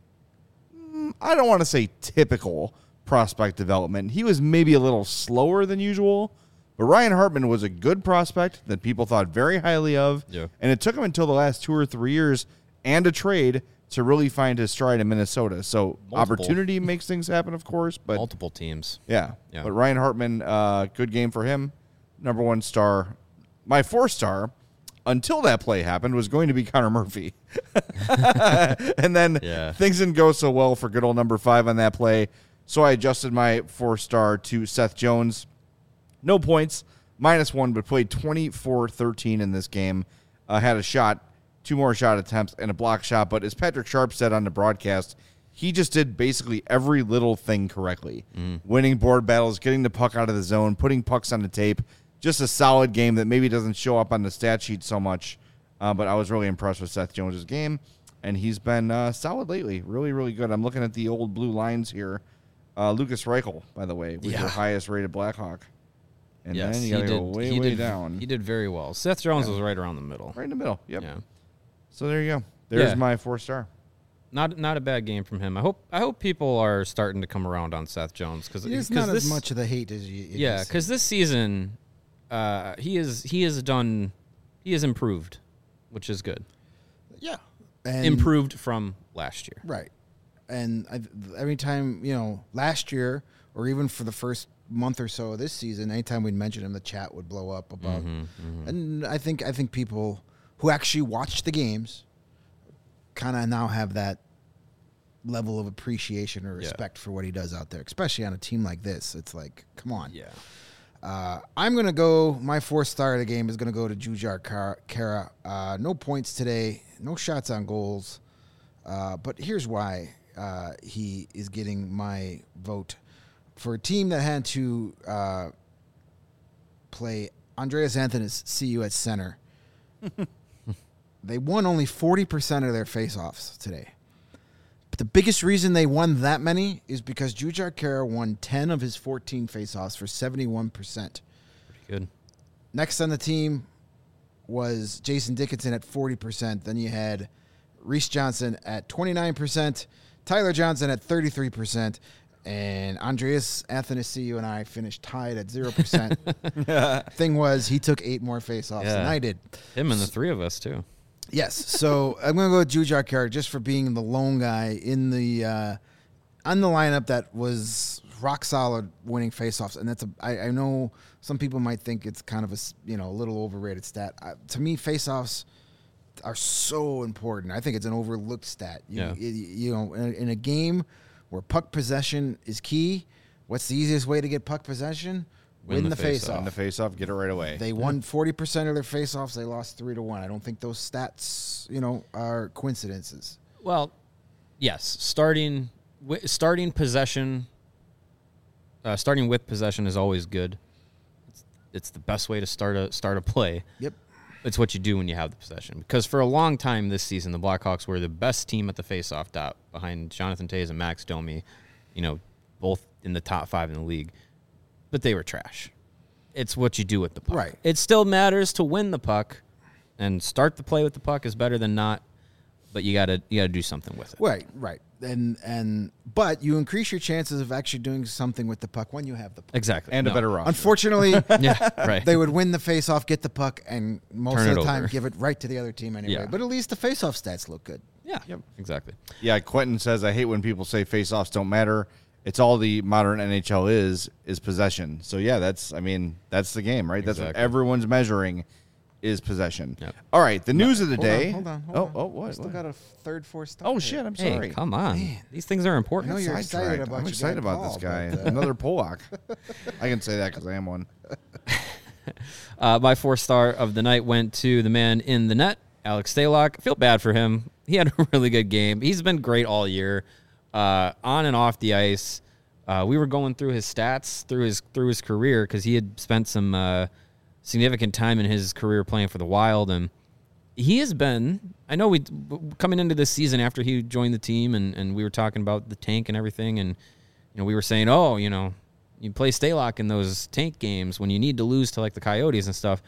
mm, I don't want to say typical prospect development. He was maybe a little slower than usual, but Ryan Hartman was a good prospect that people thought very highly of, yeah. and it took him until the last two or three years and a trade to really find his stride in Minnesota. So Multiple. Opportunity makes things happen, of course, but multiple teams. Yeah, yeah. But Ryan Hartman, uh, good game for him. Number one star. My four star, until that play happened, was going to be Connor Murphy. And then yeah. things didn't go so well for good old number five on that play. So I adjusted my four star to Seth Jones. No points, minus one, but played twenty-four thirteen in this game. Uh, had a shot, two more shot attempts, and a block shot. But as Patrick Sharp said on the broadcast, he just did basically every little thing correctly. Mm. Winning board battles, getting the puck out of the zone, putting pucks on the tape. Just a solid game that maybe doesn't show up on the stat sheet so much. Uh, but I was really impressed with Seth Jones' game, and he's been uh, solid lately. Really, really good. I'm looking at the old blue lines here. Uh, Lukas Reichel, by the way, was yeah. your highest-rated Blackhawk. And yes, then you got to go way, he way did, down. He did very well. Seth Jones yeah. was right around the middle. Right in the middle, yep. Yeah. So there you go. There's yeah. my four-star. Not not a bad game from him. I hope I hope people are starting to come around on Seth Jones because it's not this, as much of the hate as you. Yeah, because this season, uh, he is he has done he has improved, which is good. Yeah, and improved from last year. Right, and I, every time you know last year or even for the first month or so of this season, anytime we'd mention him, the chat would blow up about. Mm-hmm, mm-hmm. And I think I think people who actually watch the games kind of now have that level of appreciation or respect yeah. for what he does out there, especially on a team like this. It's like, come on. Yeah. Uh, I'm going to go, my fourth star of the game is going to go to Jujhar Khaira. Uh, no points today, no shots on goals. Uh, but here's why uh, he is getting my vote. For a team that had to uh, play Andreas Anthony's C U at center, they won only forty percent of their faceoffs today. But the biggest reason they won that many is because Jujhar Khaira won ten of his fourteen faceoffs for seventy-one percent. Pretty good. Next on the team was Jason Dickinson at forty percent. Then you had Reese Johnson at twenty-nine percent, Tyler Johnson at thirty-three percent, and Andreas Athanasiou and I finished tied at zero percent. Thing was, he took eight more faceoffs yeah. than I did. Him and the three of us, too. Yes, so I'm going to go with Jujhar Khaira just for being the lone guy in the uh, on the lineup that was rock solid winning faceoffs, and that's a. I, I know some people might think it's kind of a you know a little overrated stat. Uh, to me, faceoffs are so important. I think it's an overlooked stat. You, yeah. you, you know, in, in a game where puck possession is key, what's the easiest way to get puck possession? Win the face-off. Win the face-off, get it right away. They won forty percent of their face-offs. They lost three to one. I don't think those stats, you know, are coincidences. Well, yes, starting wi- starting possession, uh, starting with possession is always good. It's, it's the best way to start a start a play. Yep. It's what you do when you have the possession. Because for a long time this season, the Blackhawks were the best team at the face-off dot behind Jonathan Toews and Max Domi, you know, both in the top five in the league. But they were trash. It's what you do with the puck. Right. It still matters to win the puck, and start the play with the puck is better than not. But you gotta you gotta do something with it. Right, right. And and but you increase your chances of actually doing something with the puck when you have the puck. Exactly. And No. a better roster. Unfortunately, Yeah, right. they would win the face-off, get the puck, and most Turn of it the time over. give it right to the other team anyway. Yeah. But at least the face-off stats look good. Yeah, exactly. Yeah, Quentin says, I hate when people say face-offs don't matter. It's all the modern N H L is, is possession. So, yeah, that's, I mean, that's the game, right? That's what Exactly. everyone's measuring is possession. Yep. All right, the news of the Hold on, day. hold on, hold oh, on. oh, what? We still what? got a third, fourth star. Oh, here. shit, I'm Hey, sorry. come on. Man. These things are important. I know you're excited Sidetracked. about I'm your excited guy about this Paul, guy. but, uh, Another Polak. I can say that because I am one. Uh, my fourth star of the night went to the man in the net, Alex Stalock. I feel bad for him. He had a really good game. He's been great all year, uh, on and off the ice. Uh, we were going through his stats through his through his career because he had spent some uh, significant time in his career playing for the Wild, and he has been. I know we coming into this season after he joined the team, and, and we were talking about the tank and everything, and you know we were saying, oh, you know, you play Stalock in those tank games when you need to lose to like the Coyotes and stuff.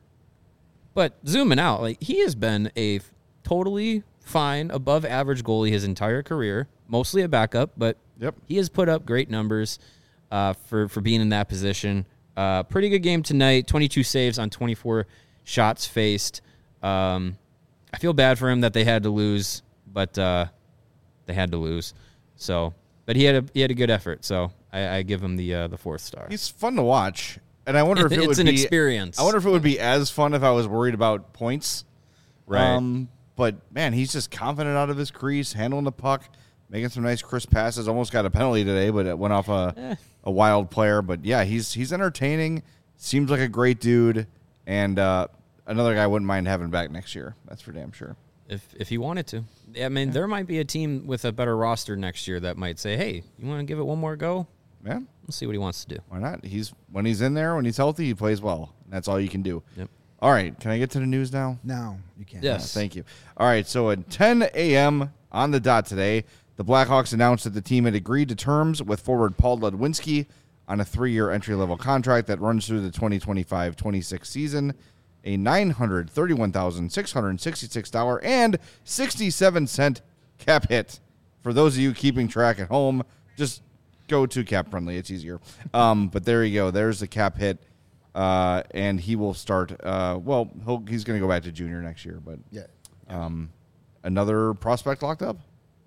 But zooming out, like he has been a totally fine, above average goalie his entire career, mostly a backup, but Yep. he has put up great numbers uh, for, for being in that position. Uh, pretty good game tonight, twenty-two saves on twenty-four shots faced. Um, I feel bad for him that they had to lose, but uh, they had to lose. So, but he had a he had a good effort, so I, I give him the uh, the fourth star. He's fun to watch. And I wonder if it It's would an be experience. I wonder if it would be as fun if I was worried about points. Right. Um, but man, he's just confident out of his crease, handling the puck, making some nice crisp passes. Almost got a penalty today, but it went off a Eh. a wild player. But yeah, he's he's entertaining. Seems like a great dude, and uh, another guy I wouldn't mind having back next year. That's for damn sure. If if he wanted to. I mean, there might be a team with a better roster next year that might say, hey, you want to give it one more go? Yeah, Let's see what he wants to do. why not? He's when he's in there, when he's healthy, he plays well. That's all you can do. Yep. All right, can I get to the news now? No, you can't. Yes. Uh, thank you. All right, so at ten a.m. on the dot today, the Blackhawks announced that the team had agreed to terms with forward Paul Ludwinski on a three-year entry-level contract that runs through the twenty twenty-five twenty-six season, a nine hundred thirty-one thousand six hundred sixty-six dollars and sixty-seven cent cap hit. For those of you keeping track at home, just go to Cap Friendly. It's easier. Um, but there you go. There's the cap hit. Uh, and he will start. Uh, well, he'll, he's going to go back to junior next year, but Yeah. um, another prospect locked up.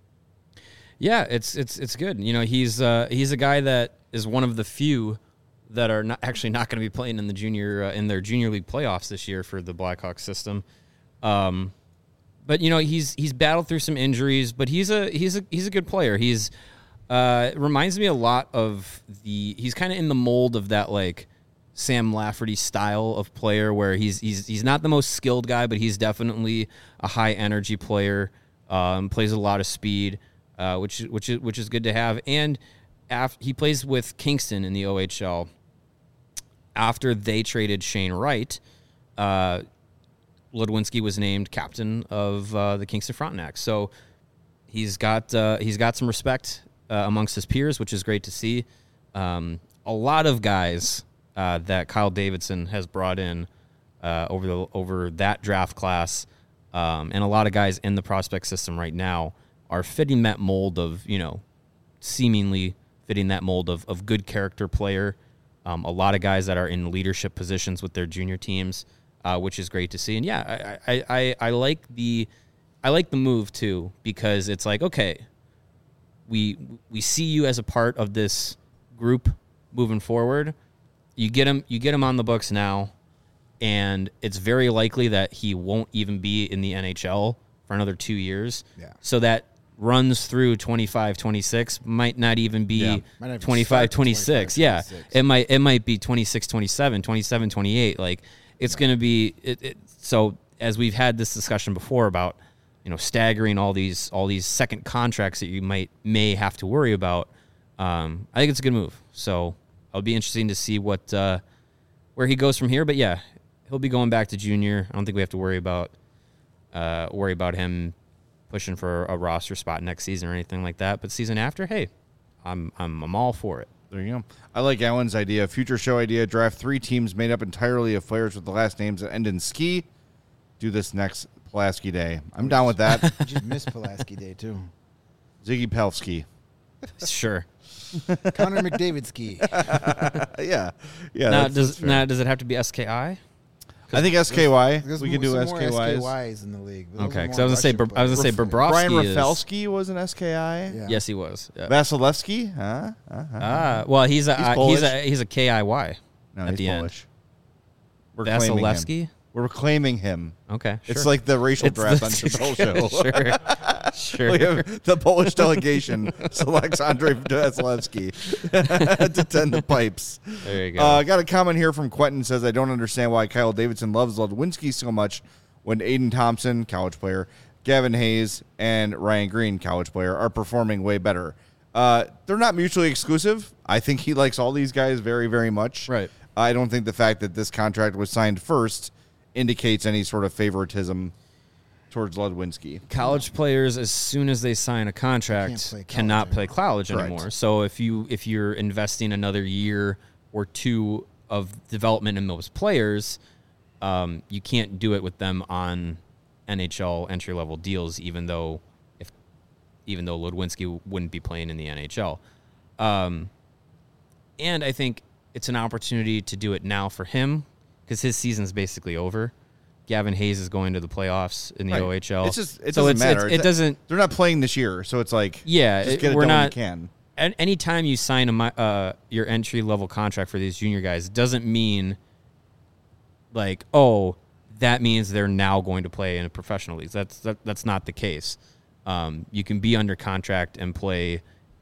Yeah, it's it's it's good. You know, he's uh, he's a guy that is one of the few that are not actually not going to be playing in the junior uh, in their junior league playoffs this year for the Blackhawks system. Um, but you know, he's he's battled through some injuries, but he's a he's a he's a good player. He's uh, reminds me a lot of the. He's kind of in the mold of that like Sam Lafferty style of player, where he's he's he's not the most skilled guy, but he's definitely a high energy player. Um, plays a lot of speed, uh, which which is which is good to have. And af- he plays with Kingston in the O H L. After they traded Shane Wright, uh, Ludwinski was named captain of uh, the Kingston Frontenacs. So he's got uh, he's got some respect uh, amongst his peers, which is great to see. Um, a lot of guys uh, that Kyle Davidson has brought in uh, over the over that draft class, um, and a lot of guys in the prospect system right now are fitting that mold of, you know, seemingly fitting that mold of of good character player. Um, a lot of guys that are in leadership positions with their junior teams, uh, which is great to see. And yeah, I, I, I, I like the I like the move too, because it's like, okay, we we see you as a part of this group moving forward. You get him you get him on the books now, and it's very likely that he won't even be in the N H L for another two years. Yeah. So that runs through twenty-five, twenty-six, might not even be Yeah. Might not even twenty-five, start twenty-six. twenty-five, Yeah, twenty-six. it might it might be twenty-six, twenty-seven, twenty-seven, twenty-eight. Like it's going to be it, it, so as we've had this discussion before about, you know, staggering all these all these second contracts that you might may have to worry about. Um, I think it's a good move. So it'll be interesting to see what uh, where he goes from here. But yeah, he'll be going back to junior. I don't think we have to worry about uh, worry about him pushing for a roster spot next season or anything like that. But season after, hey, I'm I'm I'm all for it. There you go. I like Allen's idea. Future show idea. Draft three teams made up entirely of players with the last names that end in ski. Do this next Pulaski Day. I'm down with that. You just missed Pulaski Day, too. Ziggy Pelski. Sure. Connor McDavid ski. Uh, yeah. Yeah. now that's- does that's fair. now does it have to be S K I? I think S K Y. There's We more- could do some S more K Ys. S K Ys in the league. Those Okay, are because more I was gonna say Russian Br- I was gonna say players. Brian Bobrovsky is. Rafalski was an S K I. Yeah. Yes, he was. Yeah. Vasilevsky? Huh? Uh-huh. Ah, well, he's a He's uh, he's Polish. a he's a K I Y. No, at he's the end. Polish. We're claiming him. Vasilevsky. We're claiming him. Okay, It's sure. like the racial It's draft the- on Chappelle Show. sure, We sure. have the Polish delegation selects Andrei Vasilevsky to tend the pipes. There you go. Uh, I got a comment here from Quentin. Says, I don't understand why Kyle Davidson loves Ludwinski so much when Aiden Thompson, college player, Gavin Hayes, and Ryan Green, college player, are performing way better. Uh, they're not mutually exclusive. I think he likes all these guys very, very much. Right. I don't think the fact that this contract was signed first indicates any sort of favoritism towards Ludwinski. College players, as soon as they sign a contract, Can't play college cannot play anymore. college Correct. anymore. So if you if you're investing another year or two of development in those players, um, you can't do it with them on N H L entry level deals, even though if even though Ludwinski wouldn't be playing in the N H L. Um, and I think it's an opportunity to do it now for him because his season's basically over. Gavin Hayes is going to the playoffs in the Right. O H L. It's just it So doesn't it's- matter. it's- it doesn't. They're not playing this year, so it's like Yeah, just it- get it we're done when not. you can. an- Anytime you sign a mi- uh, your entry level contract for these junior guys, doesn't mean like oh that means they're now going to play in a professional league. That's that, that's not the case. Um, you can be under contract and play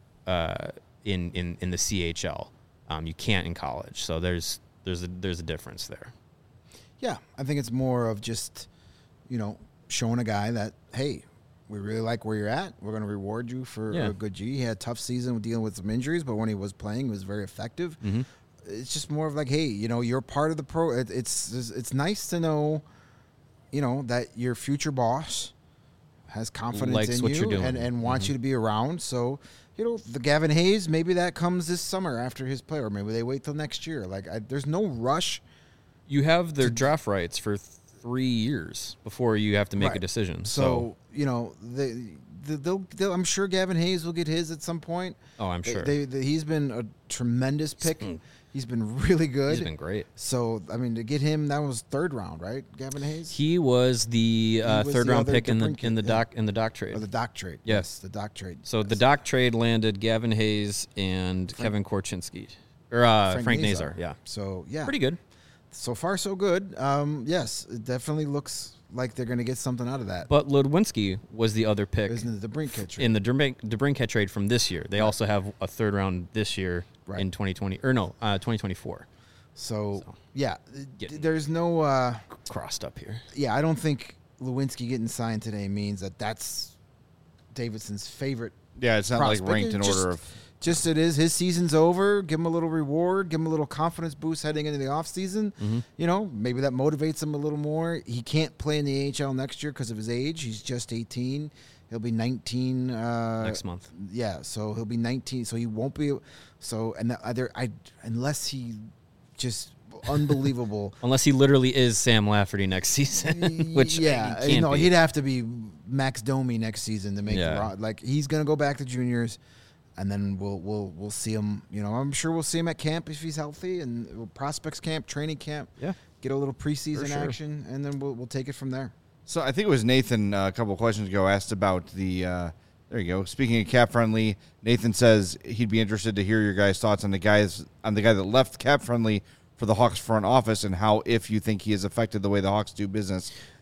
uh, in, in in the C H L. Um, you can't in college. So there's there's a there's a difference there. Yeah, I think it's more of just, you know, showing a guy that, hey, we really like where you're at. We're going to reward you for Yeah. a good G. He had a tough season with dealing with some injuries, but when he was playing, he was very effective. Mm-hmm. It's just more of like, hey, you know, you're part of the pro. It, it's it's it's nice to know, you know, that your future boss has confidence Likes in what you you're doing. and, and wants Mm-hmm. you to be around. So, you know, the Gavin Hayes, maybe that comes this summer after his play, or maybe they wait till next year. Like, I, there's no rush. You have their draft rights for three years before you have to make a Right. decision. So, So, you know, they, they, they'll, they'll, I'm sure Gavin Hayes will get his at some point. oh, I'm They- sure They, they, he's been a tremendous pick. been- He's been really good. he's been great. So, I mean, to get him, that was third round, right? Gavin Hayes? He was the uh, was third the round other pick in the DeBrincat, in the yeah. doc in the doc trade. Or the doc trade. Yes. the doc trade. So the doc trade landed Gavin Hayes and Kevin Korchinski, or uh, Frank, Frank Nazar. Nazar. Yeah, So, yeah. pretty good. So far, so good. Um, yes, it definitely looks like they're going to get something out of that. But Ludwinski was the other pick Isn't it the Brinkett trade? in the Debrink- DeBrincat trade from this year. They also have a third round this year Right. in twenty twenty or no, uh, twenty twenty-four. So, So, yeah, getting- there's no... Uh, Crossed up here. yeah, I don't think Lewinsky getting signed today means that that's Davidson's favorite. Yeah, it's not prospect. like ranked in It just- order of. Just it is. His season's over. Give him a little reward. Give him a little confidence boost heading into the offseason. Mm-hmm. You know, maybe that motivates him a little more. He can't play in the A H L next year because of his age. He's just eighteen. He'll be nineteen uh, Next month. Yeah, so he'll be nineteen. So he won't be. So and the other, I unless he just unbelievable. Unless he literally is Sam Lafferty next season, which yeah, he can't you know, be. he'd have to be Max Domi next season to make Yeah. the ro- like he's gonna go back to juniors, and then we'll we'll we'll see him. You know, I'm sure we'll see him at camp if he's healthy, and prospects camp, training camp. Yeah. Get a little preseason sure. action, and then we'll we'll take it from there. So I think it was Nathan uh, a couple of questions ago asked about the. Uh, there you go. Speaking of cap friendly, Nathan says he'd be interested to hear your guys' thoughts on the guys on the guy that left cap friendly for the Hawks front office and how if you think he has affected the way the Hawks do business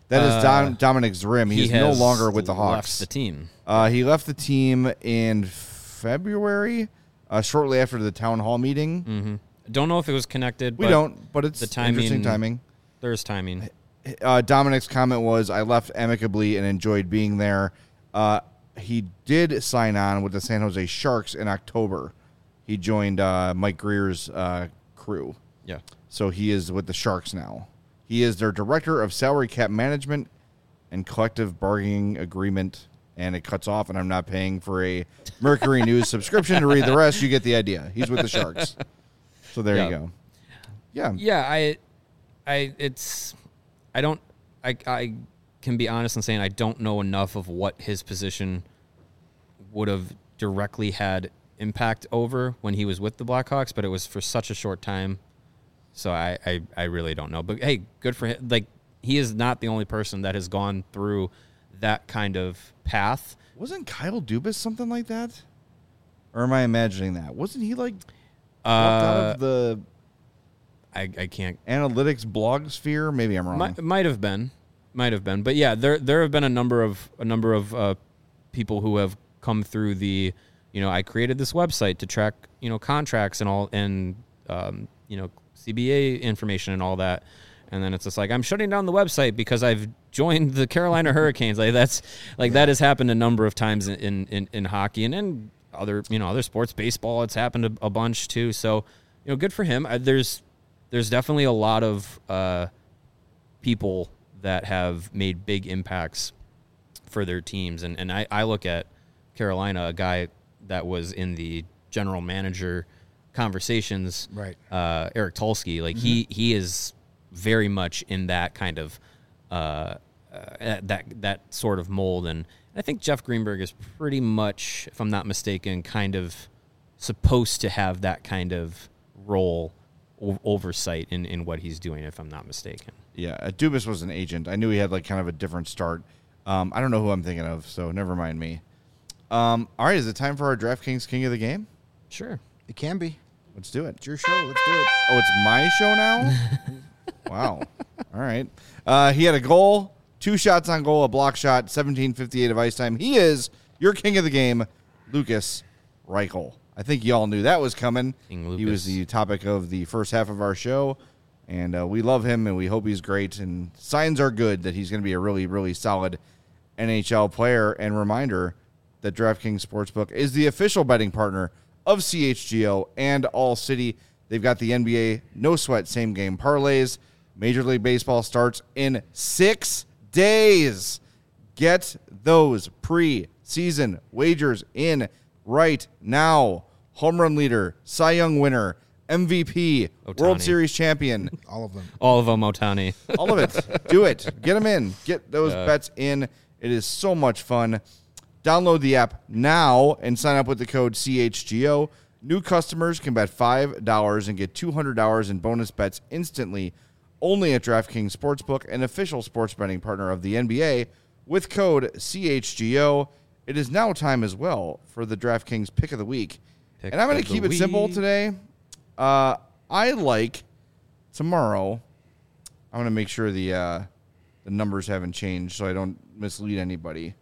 That is Uh, Dom, Dominic Zrim. He, he is no has longer with the left Hawks. the team. Uh, he left the team in February, uh, shortly after the town hall meeting. Mm-hmm. Don't know if it was connected. We but don't, but it's the timing, interesting timing. There's timing. Uh, Dominic's comment was, I left amicably and enjoyed being there. Uh, he did sign on with the San Jose Sharks in October. He joined uh, Mike Greer's uh, crew. Yeah. So he is with the Sharks now. He is their director of salary cap management and collective bargaining agreement, and it cuts off, and I'm not paying for a Mercury News subscription to read the rest. You get the idea. He's with the Sharks. So there Yeah. you go. Yeah. Yeah, I, I, it's, I don't, I, I can be honest in saying I don't know enough of what his position would have directly had impact over when he was with the Blackhawks, but it was for such a short time. So I, I, I really don't know. But hey, good for him. Like, he is not the only person that has gone through that kind of path. Wasn't Kyle Dubas something like that? Or am I imagining that? Wasn't he like Uh, out of the I, I can't. analytics blog sphere? Maybe I'm wrong. Might, might have been, might have been, but yeah, there there have been a number of a number of uh, people who have come through the, you know, I created this website to track, you know, contracts and all, and um, you know, C B A information and all that, and then it's just like, I'm shutting down the website because I've joined the Carolina Hurricanes. Like that's like that has happened a number of times in in, in hockey and in other, you know, other sports. Baseball, it's happened a, a bunch too. So, you know, good for him. Uh, there's there's definitely a lot of uh, people that have made big impacts for their teams, and and I, I look at Carolina, a guy that was in the general manager conversations, Right. uh, Eric Tulsky, like he he is very much in that kind of uh, uh, that that sort of mold, and I think Jeff Greenberg is pretty much, if I'm not mistaken, kind of supposed to have that kind of role o- oversight in, in what he's doing, if I'm not mistaken. Yeah, uh, Dubas was an agent. I knew he had like kind of a different start. Um, I don't know who I'm thinking of, so never mind me. Um, all right, is it time for our DraftKings King of the Game? Sure. It can be. Let's do it. It's your show. Let's do it. Oh, it's my show now? Wow. All right. Uh, he had a goal, two shots on goal, a block shot, seventeen fifty-eight of ice time. He is your king of the game, Lucas Reichel. I think y'all knew that was coming. King He was Lucas. the topic of the first half of our show, and uh, we love him, and we hope he's great. And signs are good that he's going to be a really, really solid N H L player. And reminder that DraftKings Sportsbook is the official betting partner of C H G O and All City. They've got the N B A no sweat same game parlays. Major League Baseball starts in six days. Get those pre-season wagers in right now. Home run leader, Cy Young winner, M V P, World Ohtani. Series champion, All of them. All of them, Otani. all of it. Do it. Get them in. Get those Yeah. bets in. It is so much fun. Download the app now and sign up with the code C H G O. New customers can bet five dollars and get two hundred dollars in bonus bets instantly only at DraftKings Sportsbook, an official sports betting partner of the N B A, with code C H G O. It is now time as well for the DraftKings Pick of the Week. Pick and I'm going of to the keep it simple week. today. Uh, I like tomorrow. I'm going to make sure the uh, the numbers haven't changed so I don't mislead anybody.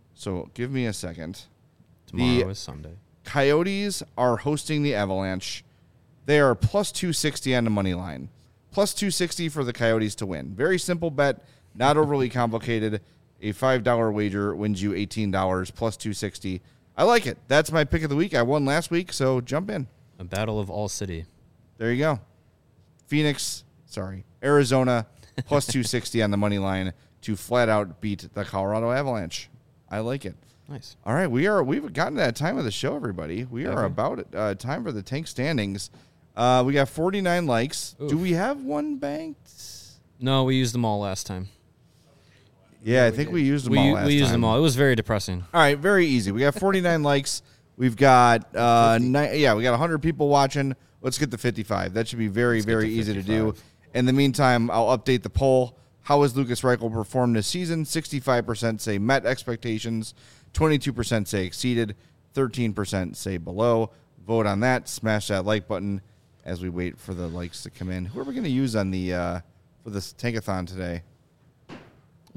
So give me a second. Tomorrow The is Sunday. Coyotes are hosting the Avalanche. They are plus two sixty on the money line. Plus two sixty for the Coyotes to win. Very simple bet, not overly complicated. A five dollar wager wins you eighteen dollars, plus two sixty. I like it. That's my pick of the week. I won last week, so jump in. A battle of all city. There you go. Phoenix, sorry, Arizona, plus two sixty on the money line to flat out beat the Colorado Avalanche. I like it. Nice. All right, we are we've gotten to that time of the show, everybody. We are Have we? about it. Uh, time for the tank standings. Uh, we got forty-nine likes. Oof. Do we have one banked? No, we used them all last time. Yeah, I think we used them we all last we used time. them all. It was very depressing. All right, very easy. We got forty-nine likes. We've got uh, ni- yeah, we got one hundred people watching. Let's get to fifty-five. That should be very, Let's get very to easy to do. fifty-five. In the meantime, I'll update the poll. How has Lucas Reichel performed this season? sixty-five percent say met expectations, twenty-two percent say exceeded, thirteen percent say below. Vote on that. Smash that like button as we wait for the likes to come in. Who are we going to use on the uh, for this tankathon today?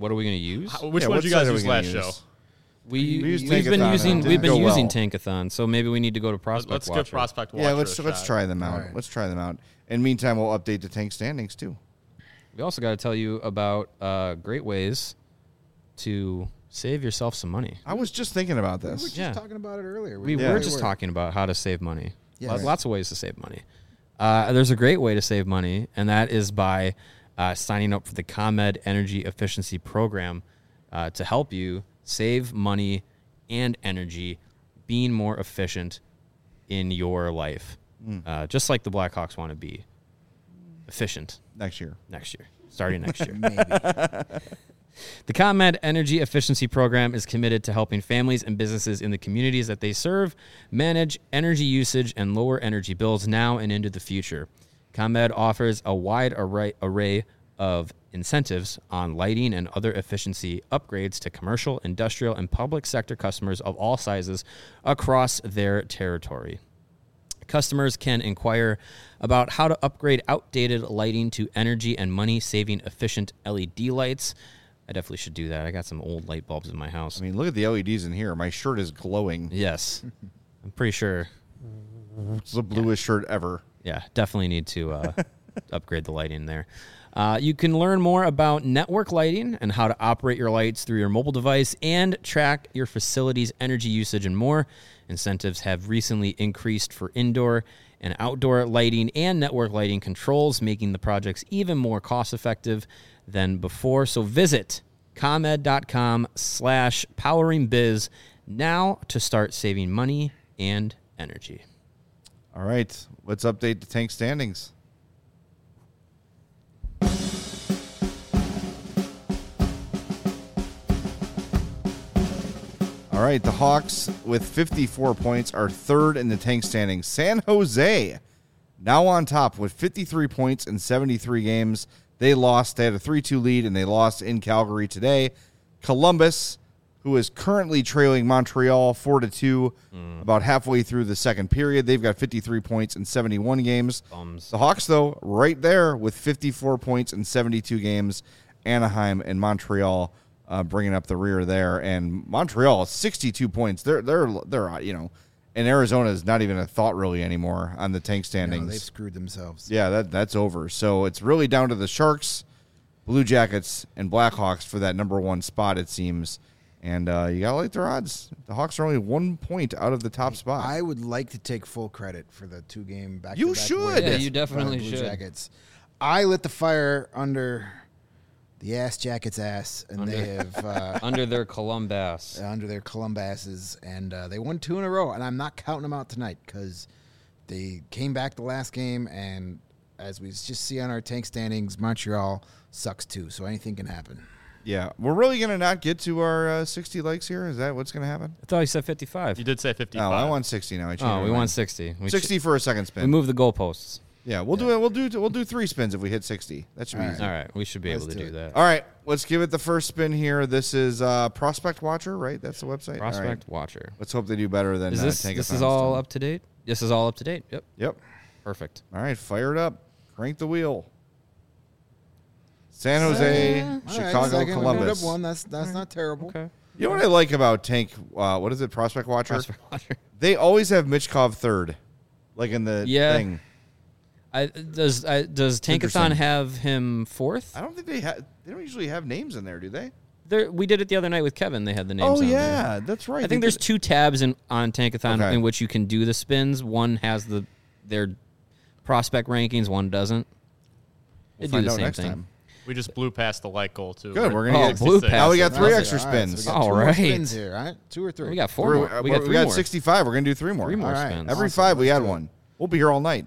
what are we going to use? How- Which Yeah, one what did you guys site are we use gonna last use? show? We, We used we've been Tankathon. using It we've didn't been go using well. Tankathon, so maybe we need to go to Prospect Let's Watcher. give Prospect Watcher Yeah, let's a let's shot. try them out. All right. Let's try them out. In meantime, we'll update the tank standings too. We also got to tell you about uh, great ways to save yourself some money. I was just thinking about We were this. just Yeah. talking about it earlier. We Yeah. were we just talking about how to save money. Yeah, Lo- right. Lots of ways to save money. Uh, there's a great way to save money, and that is by uh, signing up for the ComEd Energy Efficiency Program uh, to help you save money and energy, being more efficient in your life, uh, just like the Blackhawks want to be efficient Next year. next year, starting next year. Maybe. The ComEd Energy Efficiency Program is committed to helping families and businesses in the communities that they serve manage energy usage and lower energy bills now and into the future. ComEd offers a wide array, array of incentives on lighting and other efficiency upgrades to commercial, industrial, and public sector customers of all sizes across their territory. Customers can inquire about how to upgrade outdated lighting to energy and money-saving efficient L E D lights. I definitely should do that. I got some old light bulbs in my house. I mean, look at the L E Ds in here. My shirt is glowing. Yes. I'm pretty sure. It's the bluest shirt ever. Yeah, definitely need to uh, upgrade the lighting there. Uh, you can learn more about network lighting and how to operate your lights through your mobile device and track your facility's energy usage and more. Incentives have recently increased for indoor and outdoor lighting and network lighting controls, making the projects even more cost-effective than before. So visit ComEd.com slash poweringbiz now to start saving money and energy. All right, let's update the tank standings. All right, the Hawks with fifty-four points are third in the tank standings. San Jose now on top with fifty-three points in seventy-three games. They lost. They had a three two lead, and they lost in Calgary today. Columbus, who is currently trailing Montreal four to two, mm. about halfway through the second period. They've got fifty-three points in seventy-one games. Bums. The Hawks, though, right there with fifty-four points in seventy-two games. Anaheim and Montreal uh, bringing up the rear there, and Montreal sixty-two points. They're they're they're you know, and Arizona is not even a thought really anymore on the tank standings. No, they've screwed themselves. Yeah, that that's over. So it's really down to the Sharks, Blue Jackets, and Blackhawks for that number one spot, it seems. And uh, you gotta like their odds. The Hawks are only one point out of the top spot. I would like to take full credit for the two game back. You should. Yeah, you definitely Blue should. Jackets. I lit the fire under the ass jacket's ass, and Under- they have uh, Under their Columbus. under their Columbuses, and uh, they won two in a row. And I'm not counting them out tonight because they came back the last game, and as we just see on our tank standings, Montreal sucks too. So anything can happen. yeah, we're really gonna not get to our uh, sixty likes here. Is that what's gonna happen? I thought you said fifty-five. You did say fifty-five. Oh, I want sixty now. I changed Oh, my we mind. want sixty. We sixty for a second We spin. moved the goalposts. Yeah, we'll do it. We'll do we'll do three spins if we hit sixty. That should be All right. easy. All right, we should be Let's able to do do it. that. All right, let's give it the first spin here. This is uh, Prospect Watcher, right? That's the website. All right. Prospect Watcher. Let's hope they do better than Is uh, this Tankathon this is all done. up to date? This is all up to date. Yep. Yep. Perfect. All right, fire it up. Crank the wheel. San Jose, All right, Chicago, second, we moved Columbus. up one. That's that's not terrible. Okay. You know what I like about Tank? Uh, what is it? Prospect Watcher. Prospect Watcher. They always have Mitchkov third, like in the Yeah. thing. I, does I, does Tankathon interesting. have him fourth? I don't think they have. They don't usually have names in there, do they? There, we did it the other night with Kevin. They had the names. Oh on yeah, there. that's right. I They think there's did- two tabs in on Tankathon Okay. in which you can do the spins. One has the their prospect rankings. One doesn't. They We'll do find the out same next thing. time. We just blew past the like goal, too. Good, we're gonna Oh, get blue sixty-six. pass. Now we got three All extra right, so we spins. got All two more right. spins here, all right? Two or three. We got four We're- more. We we're- got three more. sixty-five. We're gonna do three more. Three more All right. spins. Every Awesome. five, we Let's add do it. one. We'll be here all night.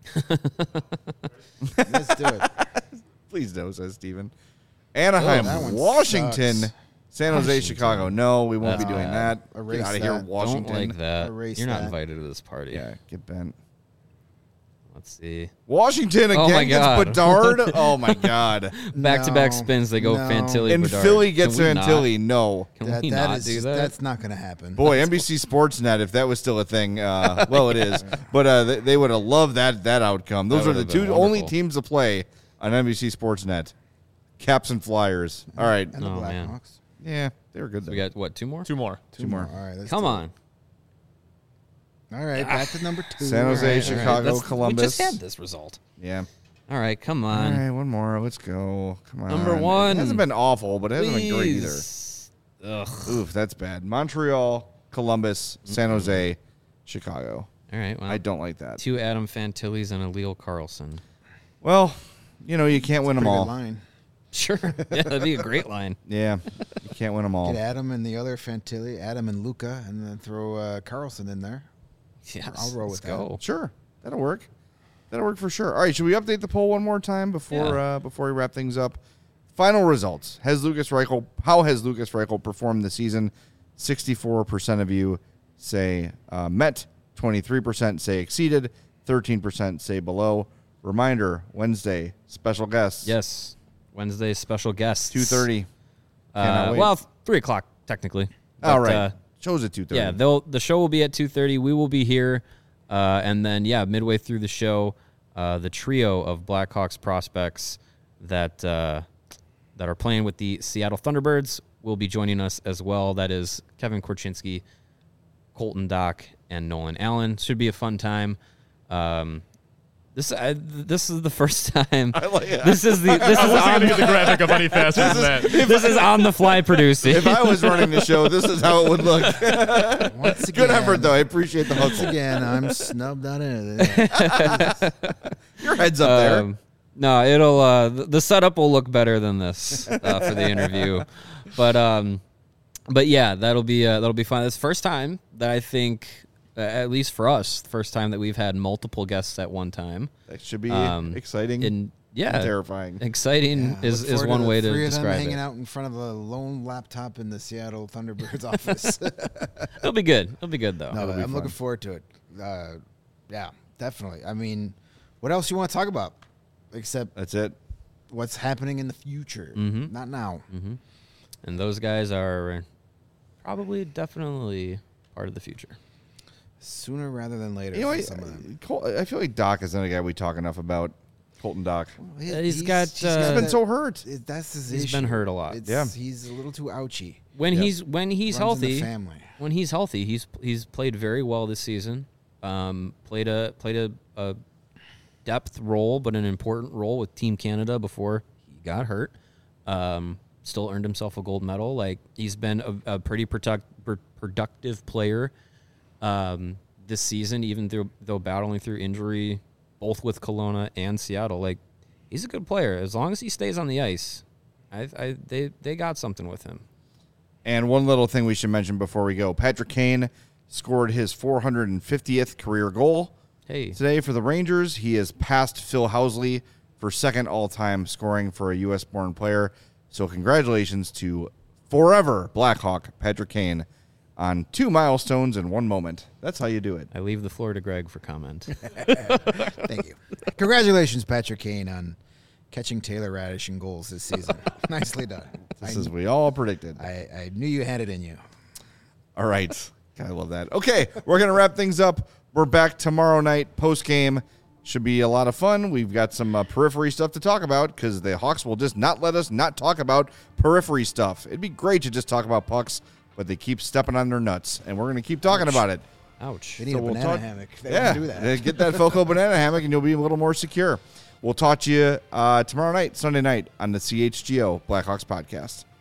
Let's do it. Please do, says Steven. Anaheim, Oh, that one Washington, sucks. San Jose, Washington. Chicago. No, we won't be That's doing bad. that. Get Erase out of here, that. Washington. Don't like that. Erase You're not that. invited to this party. Yeah, get bent. Let's see. Washington again Oh my gets God. Bedard. Oh my God. Back-to-back No, spins. They go no. Fantilli. And Bedard. Philly gets Can we not? Fantilli. No. Can That, we that not is do just- that? That's not going to happen. Boy, N B C Sportsnet, if that was still a thing, uh, well, it is. But uh, they, they would have loved that that outcome. Those That are the would have two been only wonderful. teams to play on N B C Sportsnet. Caps and Flyers. All right. And the Oh, man. Blackhawks. Yeah, they were good. So though. we got, what, two more? Two more. Two more. All right. Let's Come do it. on. All right. Back to number two. San Jose, All right, all Chicago, right. That's- Columbus. We just had this result. Yeah. All right, come All on. right, one more. Let's go. Come on. Number one. It hasn't been awful, but it hasn't been great either. Please. Ugh. Oof, that's bad. Montreal, Columbus, San Jose, Chicago. All right, well, I don't like that. two Adam Fantillis and a Leo Carlson. Well, you know, you can't win them Pretty good all. line. Sure. Yeah, that'd be a great line. Yeah, you can't win them all. Get Adam and the other Fantilli, Adam and Luca, and then throw uh, Carlson in there. Yes, I'll roll let's with that. go. Sure, that'll work. That'll work for sure. All right, should we update the poll one more time before Yeah. uh, before we wrap things up? Final results: Has Lucas Reichel? How has Lucas Reichel performed this season? Sixty-four percent of you say uh, met. Twenty-three percent say exceeded. Thirteen percent say below. Reminder: Wednesday special guests. Yes. Wednesday special guests. two thirty. Uh, Cannot wait. well, three o'clock technically. All But, right. Uh, Show's at two thirty. yeah, they'll the show will be at two thirty. We will be here, uh, and then yeah, midway through the show, uh, the trio of Blackhawks prospects that uh, that are playing with the Seattle Thunderbirds will be joining us as well. That is Kevin Korchinski, Colton Dock, and Nolan Allen. Should be a fun time. Um, this I, this is the first time. I like it. This is the this I is wasn't on going to get the graphic up any faster than that. this is on the fly producing. If I was running the show, this is how it would look. Once again, Good effort, though. I appreciate the Once hustle. again, I'm snubbed out of it. Your head's up there. Um, no, it'll uh, th- the setup will look better than this uh, for the interview, but um, but yeah, that'll be uh, that'll be fun. It's the first time that I think, uh, at least for us, the first time that we've had multiple guests at one time. That should be Um, exciting And yeah, and terrifying. exciting Yeah, is, look is forward one the way to three of them describe hanging it. out in front of a lone laptop in the Seattle Thunderbirds office. It'll be good. It'll be good though. No, That'll be I'm looking fun. forward to it. Uh, yeah, definitely. I mean, what else you want to talk about except That's it. what's happening in the future? Mhm. Not now. And those guys are probably definitely part of the future. Sooner rather than later. You know, for I, some of them. Col- I feel like Doc is another guy we talk enough about. Colton Doc. He- Uh, he's got, He's uh, been that- so hurt. it- That's his He's issue. been hurt a lot. It's, Yeah. he's a little too ouchy. When Yep. he's when he's Runs in the healthy, family. when he's healthy, he's he's played very well this season. Um, played a played a, a depth role, but an important role with Team Canada before he got hurt. Um, still earned himself a gold medal. Like he's been a, a pretty product, pr- productive player um, this season, even through though battling through injury, both with Kelowna and Seattle. Like he's a good player as long as he stays on the ice. I, I they they got something with him. And one little thing we should mention before we go. Patrick Kane scored his four hundred fiftieth career goal Hey, today for the Rangers. He has passed Phil Housley for second all-time scoring for a U S-born player. So congratulations to forever Blackhawk Patrick Kane on two milestones in one moment. That's how you do it. I leave the floor to Greg for comment. Thank you. Congratulations, Patrick Kane, on catching Taylor Radish in goals this season. Nicely done. This I, is we all predicted. I, I knew you had it in you. All right. God, I love that. Okay, we're going to wrap things up. We're back tomorrow night post-game. Should be a lot of fun. We've got some uh, periphery stuff to talk about because the Hawks will just not let us not talk about periphery stuff. It'd be great to just talk about pucks, but they keep stepping on their nuts, and we're going to keep talking about it. Ouch. They need So a we'll banana talk- hammock. They yeah, don't do that. uh, get that Foco banana hammock, and you'll be a little more secure. We'll talk to you uh, tomorrow night, Sunday night, on the C H G O Blackhawks podcast.